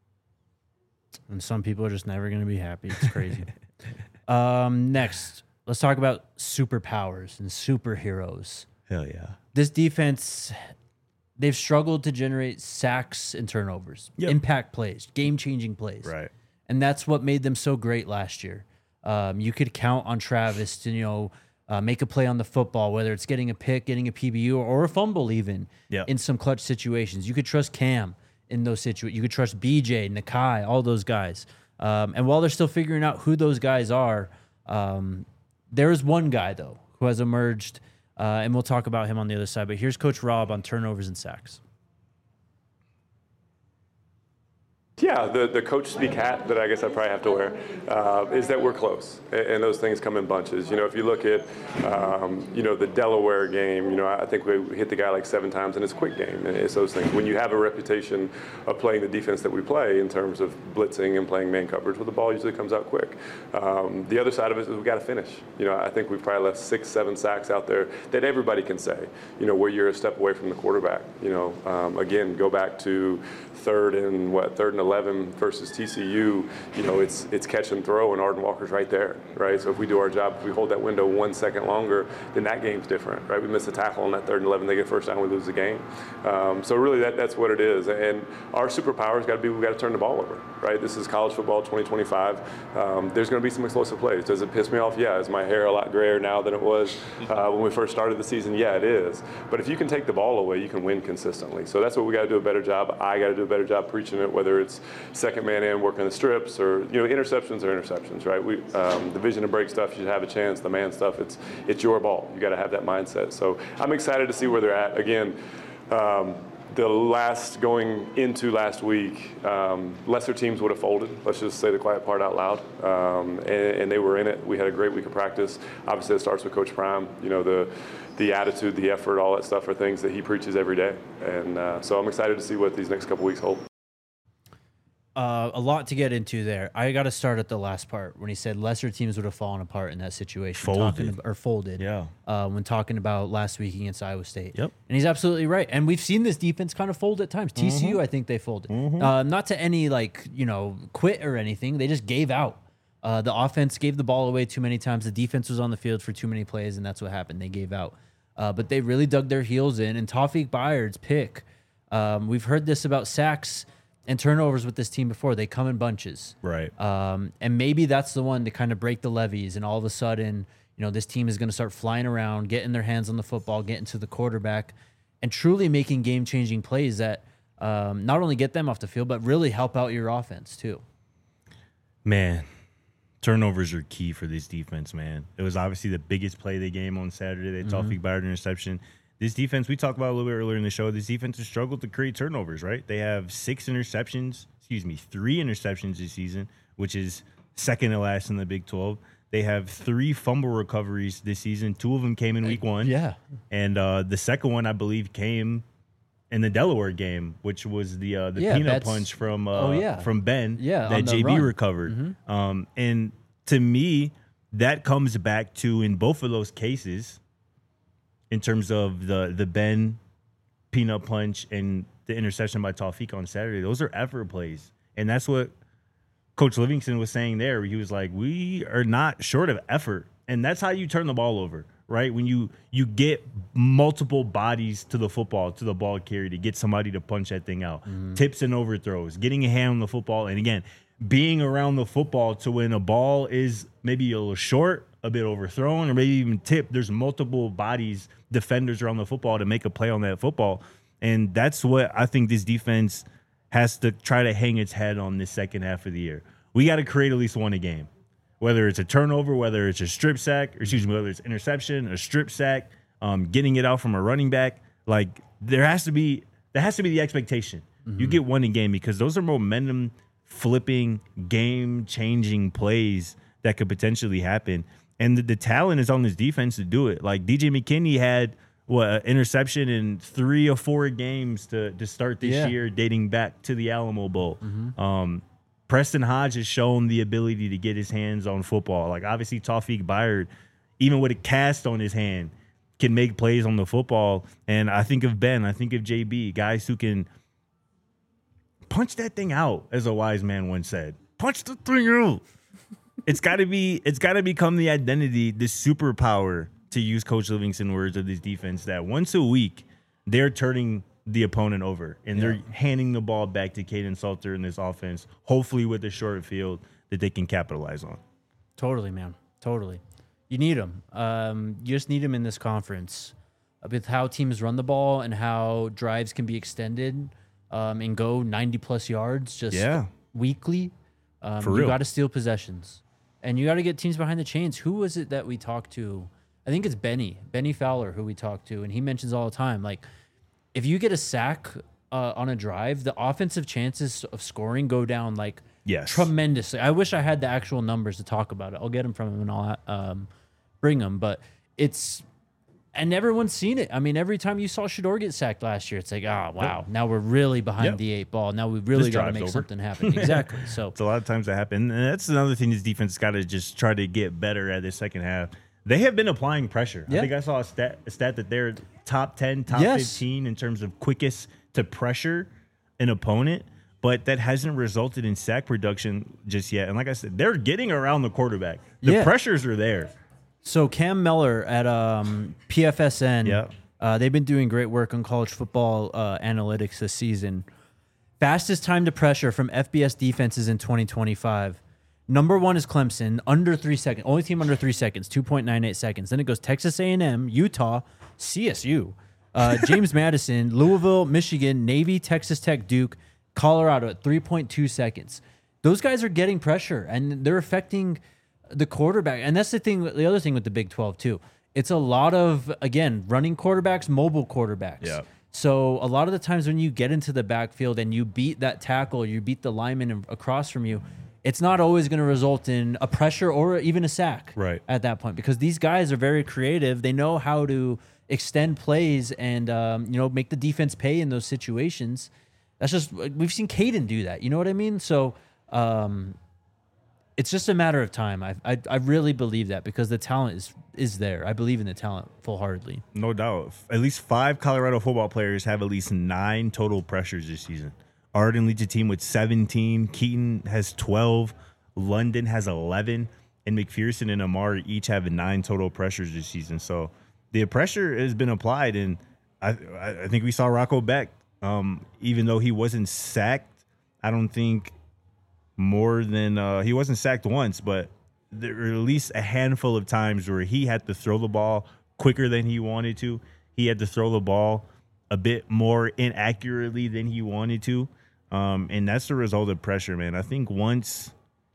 And some people are just never going to be happy. It's crazy. um, next, let's talk about superpowers and superheroes. Hell yeah. This defense, they've struggled to generate sacks and turnovers, yep. impact plays, game-changing plays. Right. And that's what made them so great last year. Um, you could count on Travis to, you know, uh, make a play on the football, whether it's getting a pick, getting a P B U, or, or a fumble even yep. in some clutch situations. You could trust Cam in those situations. You could trust B J, Nakai, all those guys. Um, and while they're still figuring out who those guys are, um, there is one guy, though, who has emerged, uh, and we'll talk about him on the other side. But here's Coach Rob on turnovers and sacks. Yeah, the, the coach speak hat that I guess I probably have to wear uh, is that we're close, and, and those things come in bunches. You know, if you look at, um, you know, the Delaware game, you know, I think we hit the guy like seven times in his quick game, and it's those things. When you have a reputation of playing the defense that we play in terms of blitzing and playing man coverage, well, the ball usually comes out quick. Um, the other side of it is we've got to finish. You know, I think we've probably left six, seven sacks out there that everybody can say, you know, where you're a step away from the quarterback. You know, um, again, go back to third and what, third and eleven versus T C U, you know, it's it's catch and throw, and Arden Walker's right there, right? So if we do our job, if we hold that window one second longer, then that game's different, right? We miss a tackle on that third and eleven, they get first down, we lose the game. Um, so really, that that's what it is. And our superpower's got to be, we've got to turn the ball over, right? This is college football twenty twenty-five. Um, there's going to be some explosive plays. Does it piss me off? Yeah. Is my hair a lot grayer now than it was uh, when we first started the season? Yeah, it is. But if you can take the ball away, you can win consistently. So that's what we got to do a better job. I got to do a better job preaching it, whether it's second man in, working the strips, or, you know, interceptions are interceptions, right? We um, the vision and break stuff, you should have a chance. The man stuff, it's it's your ball. You got to have that mindset. So I'm excited to see where they're at. Again, um, the last going into last week, um, lesser teams would have folded. Let's just say the quiet part out loud, um, and, and they were in it. We had a great week of practice. Obviously, it starts with Coach Prime. You know, the the attitude, the effort, all that stuff are things that he preaches every day. And uh, so I'm excited to see what these next couple weeks hold. Uh, a lot to get into there. I got to start at the last part when he said lesser teams would have fallen apart in that situation. Folded. Talking about, or folded. Yeah. Uh, when talking about last week against Iowa State. Yep. And he's absolutely right. And we've seen this defense kind of fold at times. Mm-hmm. T C U, I think they folded. Mm-hmm. Uh, not to any, like, you know, quit or anything. They just gave out. Uh, the offense gave the ball away too many times. The defense was on the field for too many plays, and that's what happened. They gave out. Uh, but they really dug their heels in. And Tawfiq Bayard's pick, um, we've heard this about sacks and turnovers with this team before. They come in bunches. Right. Um, and maybe that's the one to kind of break the levees, and all of a sudden, you know, this team is going to start flying around, getting their hands on the football, getting to the quarterback, and truly making game-changing plays that um, not only get them off the field, but really help out your offense too. Man, turnovers are key for this defense, man. It was obviously the biggest play of the game on Saturday, the mm-hmm. Tawfiq Bayard interception. This defense, we talked about a little bit earlier in the show, this defense has struggled to create turnovers, right? They have six interceptions, excuse me, three interceptions this season, which is second to last in the Big twelve. They have three fumble recoveries this season. Two of them came in week one. Yeah. And uh, the second one, I believe, came in the Delaware game, which was the uh, the yeah, peanut punch from uh, oh, yeah. from Ben yeah, that J B run. recovered. Mm-hmm. Um, and to me, that comes back to, in both of those cases, in terms of the the Ben peanut punch and the interception by Taufik on Saturday. Those are effort plays. And that's what Coach Livingston was saying there. He was like, we are not short of effort. And that's how you turn the ball over, right? When you you get multiple bodies to the football, to the ball carrier, to get somebody to punch that thing out. Mm-hmm. Tips and overthrows, getting a hand on the football. And again, being around the football to when a ball is maybe a little short, a bit overthrown, or maybe even tipped, there's multiple bodies, defenders around the football to make a play on that football. And that's what I think this defense has to try to hang its head on this second half of the year. We got to create at least one a game. Whether it's a turnover, whether it's a strip sack, or excuse me, whether it's interception, a strip sack, um, getting it out from a running back, like there has to be that has to be the expectation. Mm-hmm. You get one a game because those are momentum flipping, game changing plays that could potentially happen. And the, the talent is on this defense to do it. Like D J McKinney had what an interception in three or four games to to start this yeah. year, dating back to the Alamo Bowl. Mm-hmm. Um, Preston Hodge has shown the ability to get his hands on football. Like, obviously, Taufik Bayard, even with a cast on his hand, can make plays on the football. And I think of Ben, I think of J B, guys who can punch that thing out, as a wise man once said. Punch the thing out. It's got to be. It's got to become the identity, the superpower, to use Coach Livingston words of this defense, that once a week they're turning the opponent over, and yeah. they're handing the ball back to Kaidon Salter in this offense, hopefully with a short field that they can capitalize on. Totally, man. Totally. You need them. Um, you just need them in this conference with how teams run the ball and how drives can be extended um, and go ninety plus yards just yeah. weekly. Um, For you real. got to steal possessions, and you got to get teams behind the chains. Who was it that we talked to? I think it's Benny, Benny Fowler, who we talked to, and he mentions all the time, like, if you get a sack uh, on a drive, the offensive chances of scoring go down like yes. tremendously. I wish I had the actual numbers to talk about it. I'll get them from him and I'll um, bring them. But it's and everyone's seen it. I mean, every time you saw Shedeur get sacked last year, it's like, ah, oh, wow, yep. now we're really behind yep. the eight ball. Now we really got to make over. something happen. Exactly. So it's a lot of times that happen, and that's another thing this defense has got to just try to get better at this second half. They have been applying pressure. Yeah. I think I saw a stat, a stat that they're top ten, top yes. fifteen in terms of quickest to pressure an opponent, but that hasn't resulted in sack production just yet. And like I said, they're getting around the quarterback. The yeah. pressures are there. So Cam Miller at um, P F S N, yeah. uh, they've been doing great work on college football uh, analytics this season. Fastest time to pressure from F B S defenses in twenty twenty-five. Number one is Clemson, under three seconds. Only team under three seconds, two point nine eight seconds. Then it goes Texas A and M, Utah, C S U, uh, James Madison, Louisville, Michigan, Navy, Texas Tech, Duke, Colorado at three point two seconds. Those guys are getting pressure, and they're affecting the quarterback. And that's the thing. The other thing with the Big twelve, too. It's a lot of, again, running quarterbacks, mobile quarterbacks. Yeah. So a lot of the times when you get into the backfield and you beat that tackle, you beat the lineman across from you, it's not always going to result in a pressure or even a sack right. at that point, because these guys are very creative. They know how to extend plays and um, you know, make the defense pay in those situations. That's just, we've seen Kaidon do that. You know what I mean? So um, it's just a matter of time. I, I I really believe that, because the talent is is there. I believe in the talent full-heartedly. No doubt. At least five Colorado football players have at least nine total pressures this season. Arden leads a team with seventeen. Keaton has twelve. London has eleven. And McPherson and Amar each have nine total pressures this season. So the pressure has been applied. And I I think we saw Rocco Beck, um, even though he wasn't sacked, I don't think more than uh, – he wasn't sacked once, but there were at least a handful of times where he had to throw the ball quicker than he wanted to. He had to throw the ball a bit more inaccurately than he wanted to. Um, and that's the result of pressure, man. I think once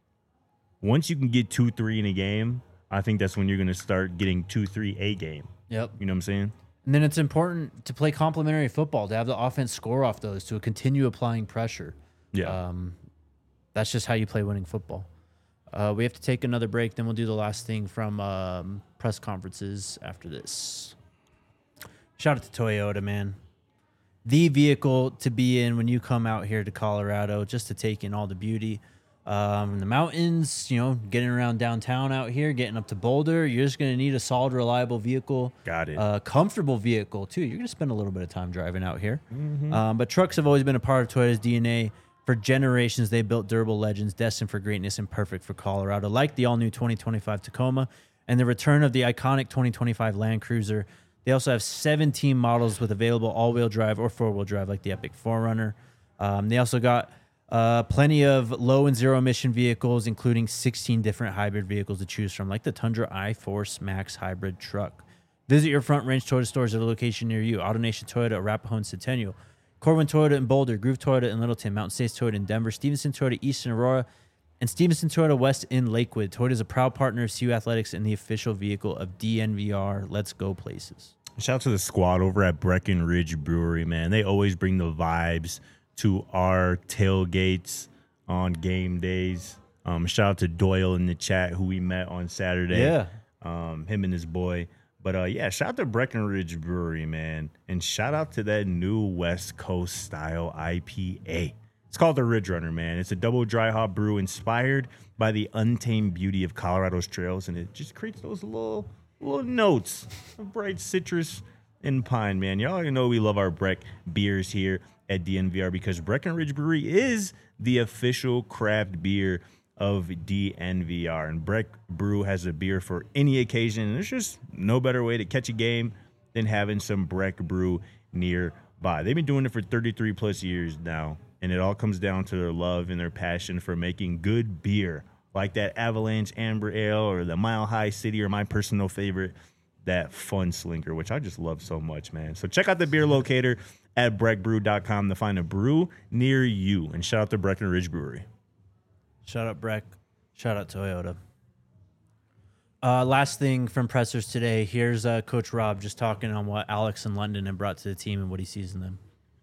once you can get two, three in a game, I think that's when you're going to start getting two, three, a game. Yep. You know what I'm saying? And then it's important to play complementary football, to have the offense score off those, to continue applying pressure. Yeah. Um, that's just how you play winning football. Uh, we have to take another break, then we'll do the last thing from um, press conferences after this. Shout out to Toyota, man. The vehicle to be in when you come out here to Colorado, just to take in all the beauty Um, the mountains, you know, getting around downtown out here, getting up to Boulder, you're just going to need a solid, reliable vehicle. Got it. A comfortable vehicle, too. You're going to spend a little bit of time driving out here. Mm-hmm. Um, but trucks have always been a part of Toyota's D N A. For generations, they built durable legends destined for greatness and perfect for Colorado, like the all-new twenty twenty-five Tacoma and the return of the iconic twenty twenty-five Land Cruiser. They also have seventeen models with available all-wheel drive or four-wheel drive, like the Epic four runner. Um, they also got Uh, plenty of low and zero emission vehicles, including sixteen different hybrid vehicles to choose from, like the Tundra iForce Max hybrid truck. Visit your Front Range Toyota stores at a location near you. AutoNation Toyota, Arapahoe and Centennial. Corwin Toyota in Boulder, Groove Toyota in Littleton, Mountain States Toyota in Denver, Stevenson Toyota East in Aurora, and Stevenson Toyota West in Lakewood. Toyota is a proud partner of C U Athletics and the official vehicle of D N V R. Let's go places. Shout out to the squad over at Breckenridge Brewery, man. They always bring the vibes to our tailgates on game days. Um, shout out to Doyle in the chat, who we met on Saturday. Yeah. Um, him and his boy. But, uh, yeah, shout out to Breckenridge Brewery, man. And shout out to that new West Coast style I P A. It's called the Ridge Runner, man. It's a double dry hop brew inspired by the untamed beauty of Colorado's trails, and it just creates those little little notes of bright citrus and pine, man. Y'all already know we love our Breck beers here at D N V R because Breckenridge Brewery is the official craft beer of D N V R. And Breck Brew has a beer for any occasion. And there's just no better way to catch a game than having some Breck Brew nearby. They've been doing it for thirty-three plus years now. And it all comes down to their love and their passion for making good beer, like that Avalanche Amber Ale or the Mile High City, or my personal favorite, that Fun Slinker, which I just love so much, man. So check out the beer locator at breck brew dot com to find a brew near you. And shout out to Breckenridge Brewery. Shout out Breck. Shout out Toyota. Uh, last thing from pressers today. Here's uh, Coach Rob just talking on what Alex and London have brought to the team and what he sees in them.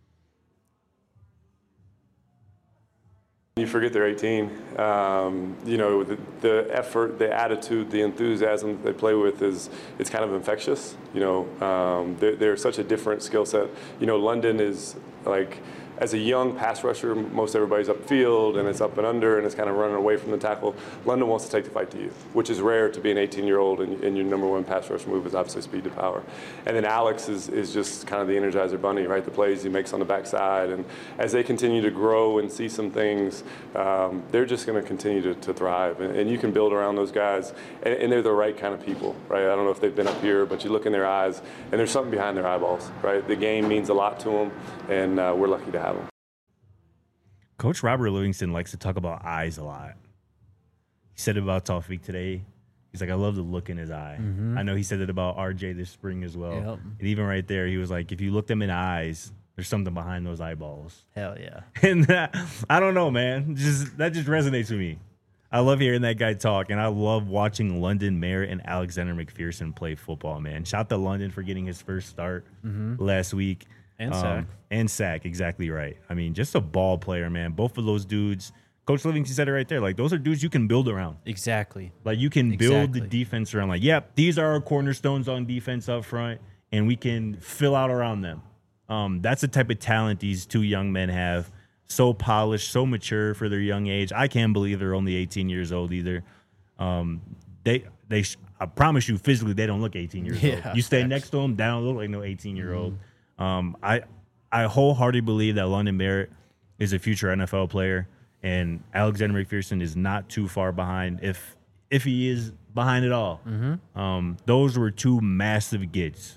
You forget they're eighteen. Um, you know, the, the effort, the attitude, the enthusiasm that they play with is it's kind of infectious. You know, um, they're, they're such a different skill set. You know, London is like, as a young pass rusher, most everybody's upfield and it's up and under and it's kind of running away from the tackle. London wants to take the fight to you, which is rare to be an eighteen-year-old and, and your number one pass rush move is obviously speed to power. And then Alex is, is just kind of the Energizer Bunny, right? The plays he makes on the backside. And as they continue to grow and see some things, um, they're just going to continue to, to thrive. And, and you can build around those guys. And, and they're the right kind of people, right? I don't know if they've been up here, but you look in their eyes and there's something behind their eyeballs, right? The game means a lot to them, and uh, we're lucky to have them. Coach Robert Livingston likes to talk about eyes a lot. He said it about Taufik today. He's like, I love the look in his eye. Mm-hmm. I know he said it about R J this spring as well. Yep. And even right there, he was like, if you look them in the eyes, there's something behind those eyeballs. Hell yeah. And that, I don't know, man. Just that just resonates with me. I love hearing that guy talk, and I love watching London Merritt and Alexander McPherson play football, man. Shout out to London for getting his first start mm-hmm. last week. And um, sack. And sack, exactly right. I mean, just a ball player, man. Both of those dudes, Coach Livingston said it right there. Like, those are dudes you can build around. Exactly. Like, you can build exactly. the defense around. Like, yep, these are our cornerstones on defense up front, and we can fill out around them. Um, that's the type of talent these two young men have. So polished, so mature for their young age. I can't believe they're only eighteen years old either. Um, they, they, I promise you, physically, they don't look eighteen years yeah, old. You stay facts. next to them, they don't look like no eighteen-year-old. Mm-hmm. Um, I I wholeheartedly believe that London Merritt is a future N F L player, and Alexander McPherson is not too far behind, if if he is behind at all. Mm-hmm. Um, those were two massive gets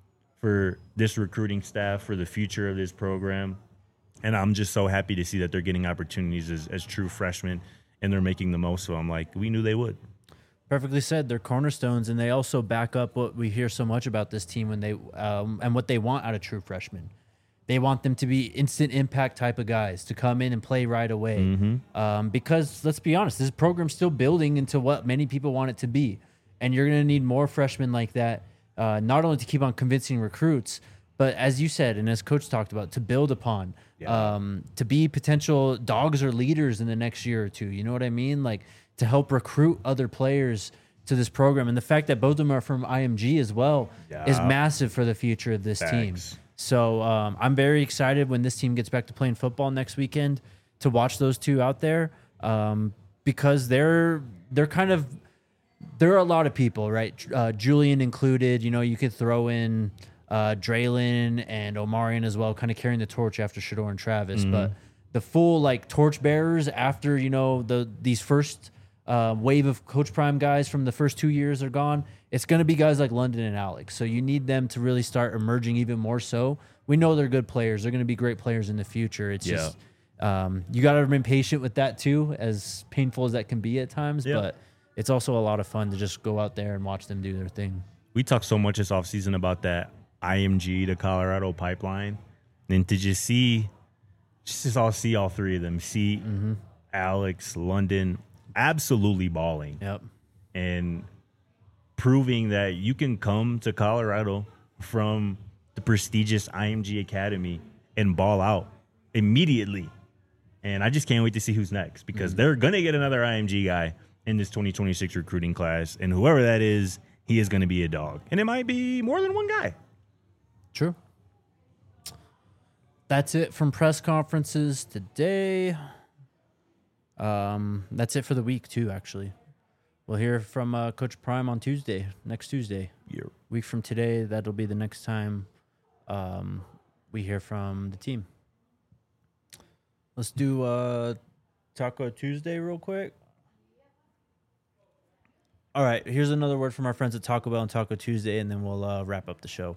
for this recruiting staff, for the future of this program, and I'm just so happy to see that they're getting opportunities as, as true freshmen, and they're making the most of them. Like we knew they would. Perfectly said. They're cornerstones, and they also back up what we hear so much about this team when they um, and what they want out of true freshmen. They want them to be instant impact type of guys to come in and play right away. Mm-hmm. Um, because let's be honest, this program's still building into what many people want it to be, and you're going to need more freshmen like that, uh, not only to keep on convincing recruits, but as you said and as Coach talked about, to build upon, yeah. um, to be potential dogs or leaders in the next year or two. You know what I mean? Like, to help recruit other players to this program. And the fact that both of them are from I M G as well yeah. is massive for the future of this Thanks. team. So um, I'm very excited when this team gets back to playing football next weekend to watch those two out there. um, because they're they're kind of there are a lot of people, right? Uh, Julian included. You know, you could throw in uh, Draylon and Omarion as well, kind of carrying the torch after Shedeur and Travis. Mm-hmm. But the full like torch bearers after you know the these first uh, wave of Coach Prime guys from the first two years are gone. It's going to be guys like London and Alex. So you need them to really start emerging even more so. We know they're good players. They're going to be great players in the future. It's yeah. just um, you got to remain patient with that too, as painful as that can be at times. Yeah. But it's also a lot of fun to just go out there and watch them do their thing. We talked so much this offseason about that I M G to Colorado pipeline. And to just see, just to all see all three of them, see mm-hmm. Alex, London, absolutely balling. Yep. And proving that you can come to Colorado from the prestigious I M G Academy and ball out immediately. And I just can't wait to see who's next because mm-hmm. they're going to get another I M G guy in this twenty twenty-six recruiting class. And whoever that is, he is going to be a dog. And it might be more than one guy. True. That's it from press conferences today. Um, that's it for the week, too, actually. We'll hear from uh, Coach Prime on Tuesday, next Tuesday. Yeah. Week from today, that'll be the next time um, we hear from the team. Let's do uh, Taco Tuesday real quick. All right, here's another word from our friends at Taco Bell and Taco Tuesday, and then we'll uh, wrap up the show.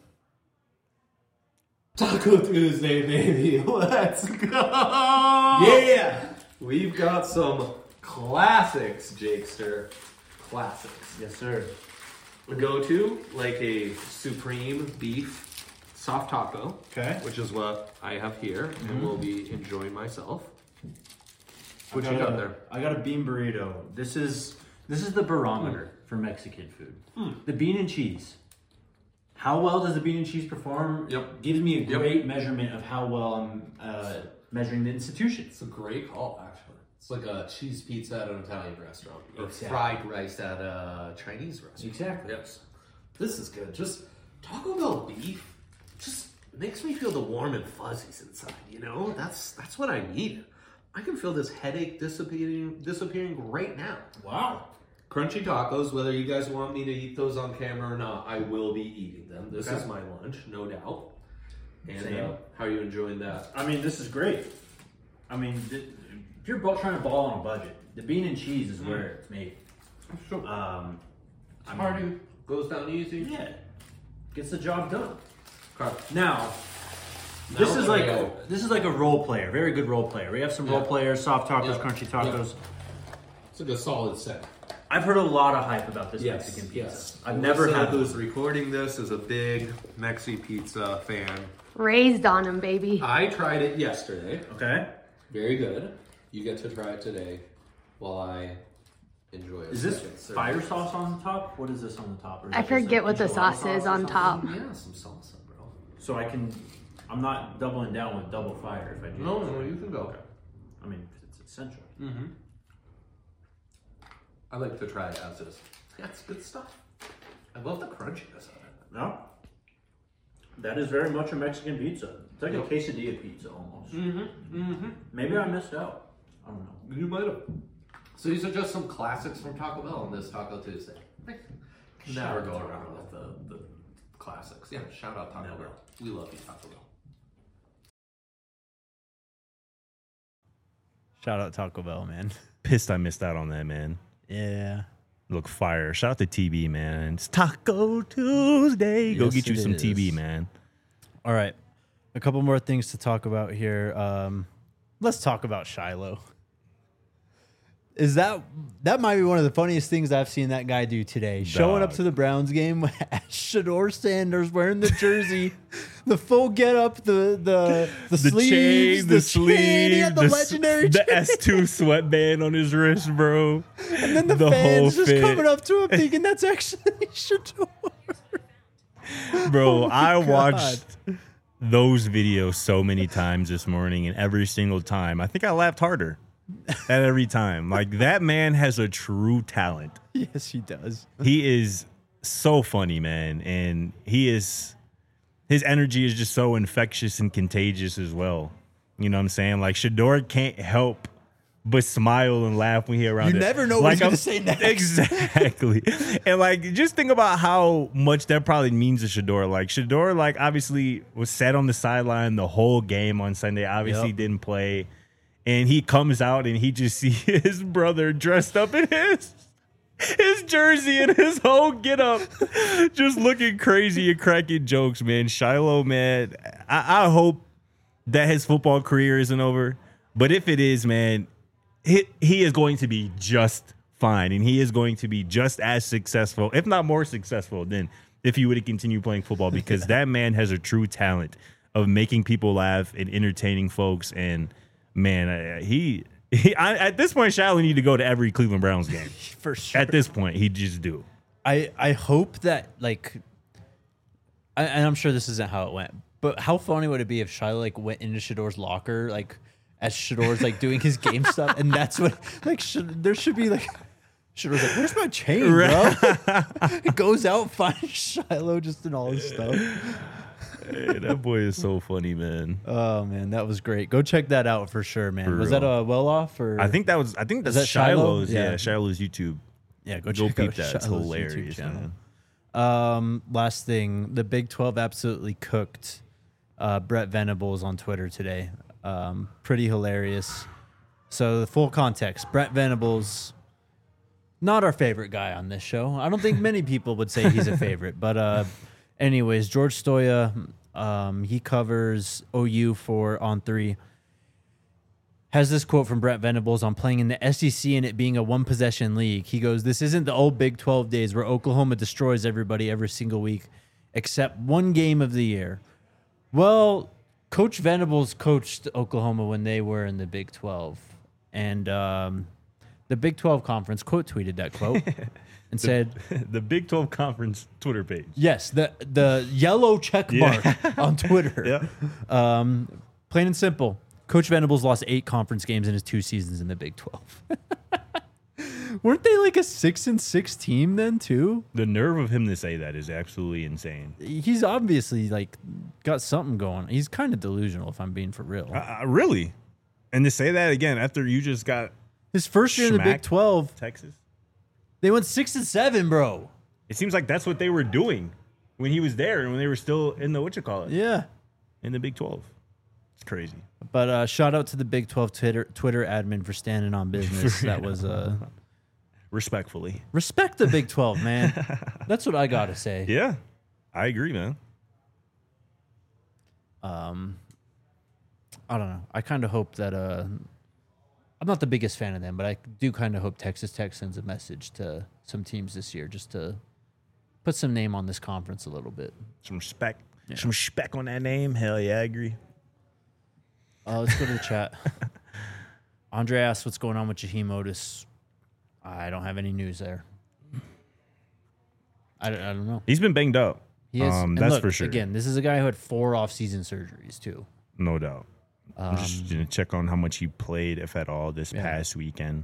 Taco Tuesday, baby. Let's go. Yeah. We've got some classics, Jakester. Classics. Yes, sir. A go-to, like a supreme beef soft taco. Okay. Which is what I have here, mm-hmm. and will be enjoying myself. What you got there? I got a bean burrito. This is this is the barometer mm. for Mexican food. Mm. The bean and cheese. How well does the bean and cheese perform? Yep. Gives me a great yep. measurement of how well I'm uh, measuring the institution. It's a great call, actually. It's like a cheese pizza at an Italian restaurant. Or exactly. fried rice at a Chinese restaurant. Exactly. Yes. This is good. Just Taco Bell beef just makes me feel the warm and fuzzies inside, you know? That's that's what I need. I can feel this headache disappearing disappearing right now. Wow. Crunchy tacos, whether you guys want me to eat those on camera or not, I will be eating them. This okay. is my lunch, no doubt. And uh, how are you enjoying that? I mean, this is great. I mean, th- if you're both trying to ball on a budget, the bean and cheese is mm. where it's made. Sure. Um, I Party mean, goes down easy. Yeah, gets the job done. Okay. Now, now, this is like a, this is like a role player, very good role player. We have some yeah. role players, soft tacos, yeah. crunchy tacos. Yeah. It's like a solid set. I've heard a lot of hype about this yes, Mexican pizza. Yes. I've never Alyssa, had who's recording this is a big Mexi pizza fan. Raised on them, baby. I tried it yesterday. Okay. Very good. You get to try it today while I enjoy it. Is this fire sauce on the top? What is this on the top? Or I forget what the sauce is on top. Yeah, some salsa, bro. So I can, I'm not doubling down with double fire if I do. No, no, you can go. Okay. I mean, it's essential. Mm-hmm. I like to try it as is. That's good stuff. I love the crunchiness of it. No? That is very much a Mexican pizza. It's like yep. a quesadilla pizza almost. Mm-hmm. Mm-hmm. Maybe I missed out. I don't know. You might have. So these are just some classics from Taco Bell on this Taco Tuesday. Can never go around with the, the classics. Yeah, shout out Taco Never. Bell. We love you, Taco Bell. Shout out Taco Bell, man. Pissed I missed out on that, man. Yeah. Look, fire. Shout out to T B, man. It's Taco Tuesday. Go yes, get you some is. T B, man. All right. A couple more things to talk about here. Um, let's talk about Shiloh. Is that that might be one of the funniest things I've seen that guy do today? Dog. Showing up to the Browns game as Shedeur Sanders wearing the jersey, the full get up, the the the, the sleeves, chain, the, the sleeve, chain, the, the legendary the chain. S two sweatband on his wrist, bro. And then the, the fans just fit. coming up to him thinking that's actually Shedeur. Bro, oh I God. watched those videos so many times this morning, and every single time, I think I laughed harder. At every time. Like, that man has a true talent. Yes, he does. He is so funny, man. And he is, his energy is just so infectious and contagious as well. You know what I'm saying? Like, Shedeur can't help but smile and laugh when he around You it. never know what he's gonna say next. Exactly. And like, just think about how much that probably means to Shedeur. Like Shedeur, like obviously was sat on the sideline the whole game on Sunday. Obviously Yep. didn't play, and he comes out and he just sees his brother dressed up in his his jersey and his whole get up, just looking crazy and cracking jokes. Man, Shiloh, man, I, I hope that his football career isn't over, but if it is, man. He, he is going to be just fine, and he is going to be just as successful, if not more successful, than if he would have continued playing football, because that man has a true talent of making people laugh and entertaining folks. And, man, I, he, he I, at this point, Shiloh need to go to every Cleveland Browns game. For sure. At this point, he just do. I, I hope that, like, I, and I'm sure this isn't how it went, but how funny would it be if Shiloh, like, went into Shedeur's locker, like, as Shedeur's like doing his game stuff, and that's what like should, there should be like Shedeur's like, where's my chain, bro? It goes out, finds Shiloh just in all his stuff. Hey, that boy is so funny, man. Oh man, that was great. Go check that out for sure, man. For was real. that a well off or I think that was I think that's that Shiloh? Shiloh's yeah. Yeah. Shiloh's YouTube. yeah? Go Go check peep out that. It's Shiloh's hilarious, YouTube channel. man. Um, last thing, the Big twelve absolutely cooked uh, Brett Venables on Twitter today. Um, pretty hilarious. So the full context, Brett Venables, not our favorite guy on this show. I don't think many people would say he's a favorite, but uh, anyways, George Stoya, um, he covers O U for On Three. Has this quote from Brett Venables on playing in the S E C and it being a one-possession league. He goes, "This isn't the old Big twelve days where Oklahoma destroys everybody every single week except one game of the year." Well, Coach Venables coached Oklahoma when they were in the Big twelve. And um, the Big twelve conference quote tweeted that quote and said, The Big twelve Conference Twitter page. yes, the, the yellow check mark on Twitter. Yeah. Um, plain and simple. Coach Venables lost eight conference games in his two seasons in the Big twelve. Weren't they like a six and six team then too? The nerve of him to say that is absolutely insane. He's obviously like got something going. He's kind of delusional, if I'm being for real. Uh, really? And to say that again after you just got His first year in the Big smacked twelve, Texas? they went six and seven, bro. It seems like that's what they were doing when he was there and when they were still in the what you call it Yeah. in the Big twelve. It's crazy. But uh, shout out to the Big twelve Twitter Twitter admin for standing on business. That was uh, Respectfully. respect the Big twelve, man. That's what I gotta say. Yeah, I agree, man. Um, I don't know. I kind of hope that uh, I'm not the biggest fan of them, but I do kind of hope Texas Tech sends a message to some teams this year just to put some name on this conference a little bit. Some respect. Some respect on that name. Hell yeah, I agree. Uh, let's go to the chat. Andre asks what's going on with Jaheim Otis. I don't have any news there. I don't, I don't know. He's been banged up. He is. Um, and that's look, for sure. Again, this is a guy who had four off-season surgeries too. No doubt. I'm just Um, gonna check on how much he played, if at all, this Yeah. past weekend.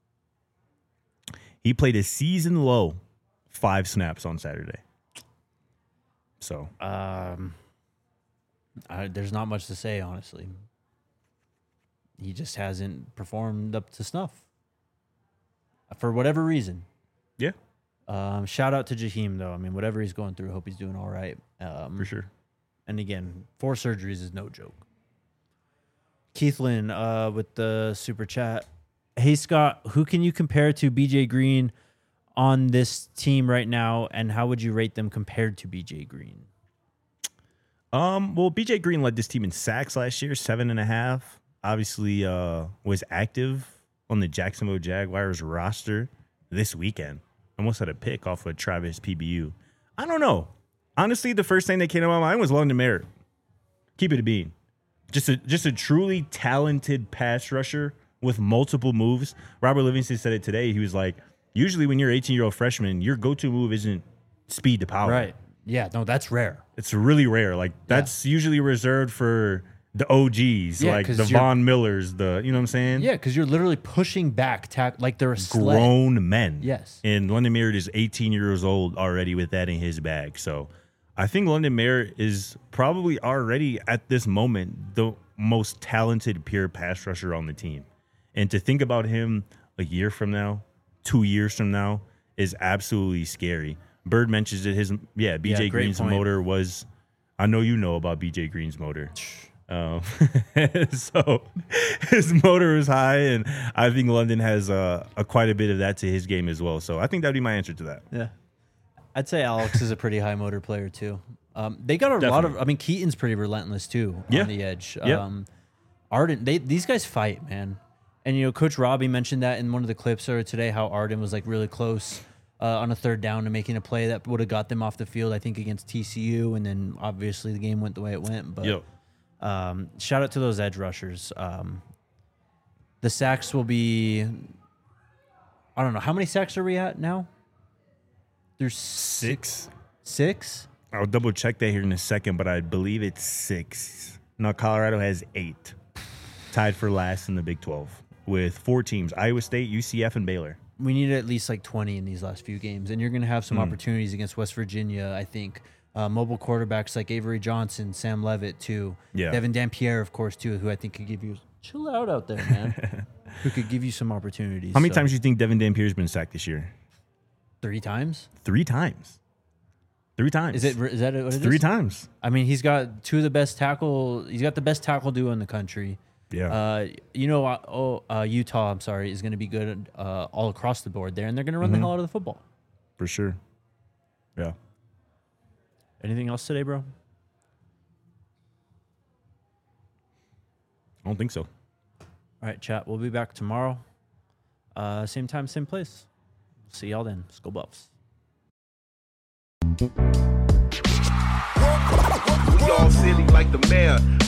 He played a season low five snaps on Saturday. So Um, I, there's not much to say, honestly. He just hasn't performed up to snuff for whatever reason. yeah, Um, shout out to Jaheim, though. I mean, whatever he's going through, hope he's doing all right. Um, for sure. And again, four surgeries is no joke. Keith Lynn uh, with the super chat. Hey, Scott, who can you compare to B J Green on this team right now, and how would you rate them compared to B J Green? Um, well, B J Green led this team in sacks last year, seven and a half. Obviously, uh, was active on the Jacksonville Jaguars roster this weekend. Almost had a pick off of Travis P B U. I don't know. Honestly, the first thing that came to my mind was London Merritt. Keep it a bean. Just a just a truly talented pass rusher with multiple moves. Robert Livingston said it today. He was like, usually when you're an eighteen-year-old freshman, your go-to move isn't speed to power. Right. Yeah, no, that's rare. It's really rare. Like, that's usually reserved for the O Gs, Yeah, like 'cause the you're- Von Millers, the, you know what I'm saying? Yeah, because you're literally pushing back tack like they're a sled. Grown men. Yes. And London Merritt is eighteen years old already with that in his bag. So I think London Merritt is probably already at this moment the most talented pure pass rusher on the team. And to think about him a year from now, two years from now, is absolutely scary. Bird mentions that his, yeah, B J Yeah, great Green's point. motor was, I know you know about B J Green's motor. Um, so his motor is high, and I think London has uh, a quite a bit of that to his game as well. So I think that'd be my answer to that. Yeah. I'd say Alex is a pretty high motor player too. Um, they got a lot Definitely. of. I mean, Keaton's pretty relentless too Yeah. on the edge. Yep. Um, Arden, they these guys fight, man. And you know, Coach Robbie mentioned that in one of the clips earlier today, how Arden was like really close uh, on a third down to making a play that would have got them off the field. I think against T C U, and then obviously the game went the way it went. But Yep. um, shout out to those edge rushers. Um, the sacks will be. I don't know how many sacks are we at now. There's Six. Six. I'll double check that here in a second, but I believe it's six. No, Colorado has eight, tied for last in the Big twelve with four teams: Iowa State, U C F, and Baylor. We need at least like twenty in these last few games, and you're going to have some Hmm. opportunities against West Virginia. I think uh, mobile quarterbacks like Avery Johnson, Sam Levitt, too. Yeah. Devin Dampierre, of course, too, who I think could give you chill out out there, man. Who could give you some opportunities. How many So, times do you think Devin Dampierre's been sacked this year? Three times. Three times. Three times. Is it? Is that what it is? Three times. I mean, he's got two of the best tackle. He's got the best tackle duo in the country. Yeah. Uh, you know, uh, oh, uh, Utah, I'm sorry, is going to be good uh, all across the board there, and they're going to run Mm-hmm. the hell out of the football. For sure. Yeah. Anything else today, bro? I don't think so. All right, chat. We'll be back tomorrow. Uh, same time, same place. See y'all then. Let's go Buffs. We all silly like the mayor.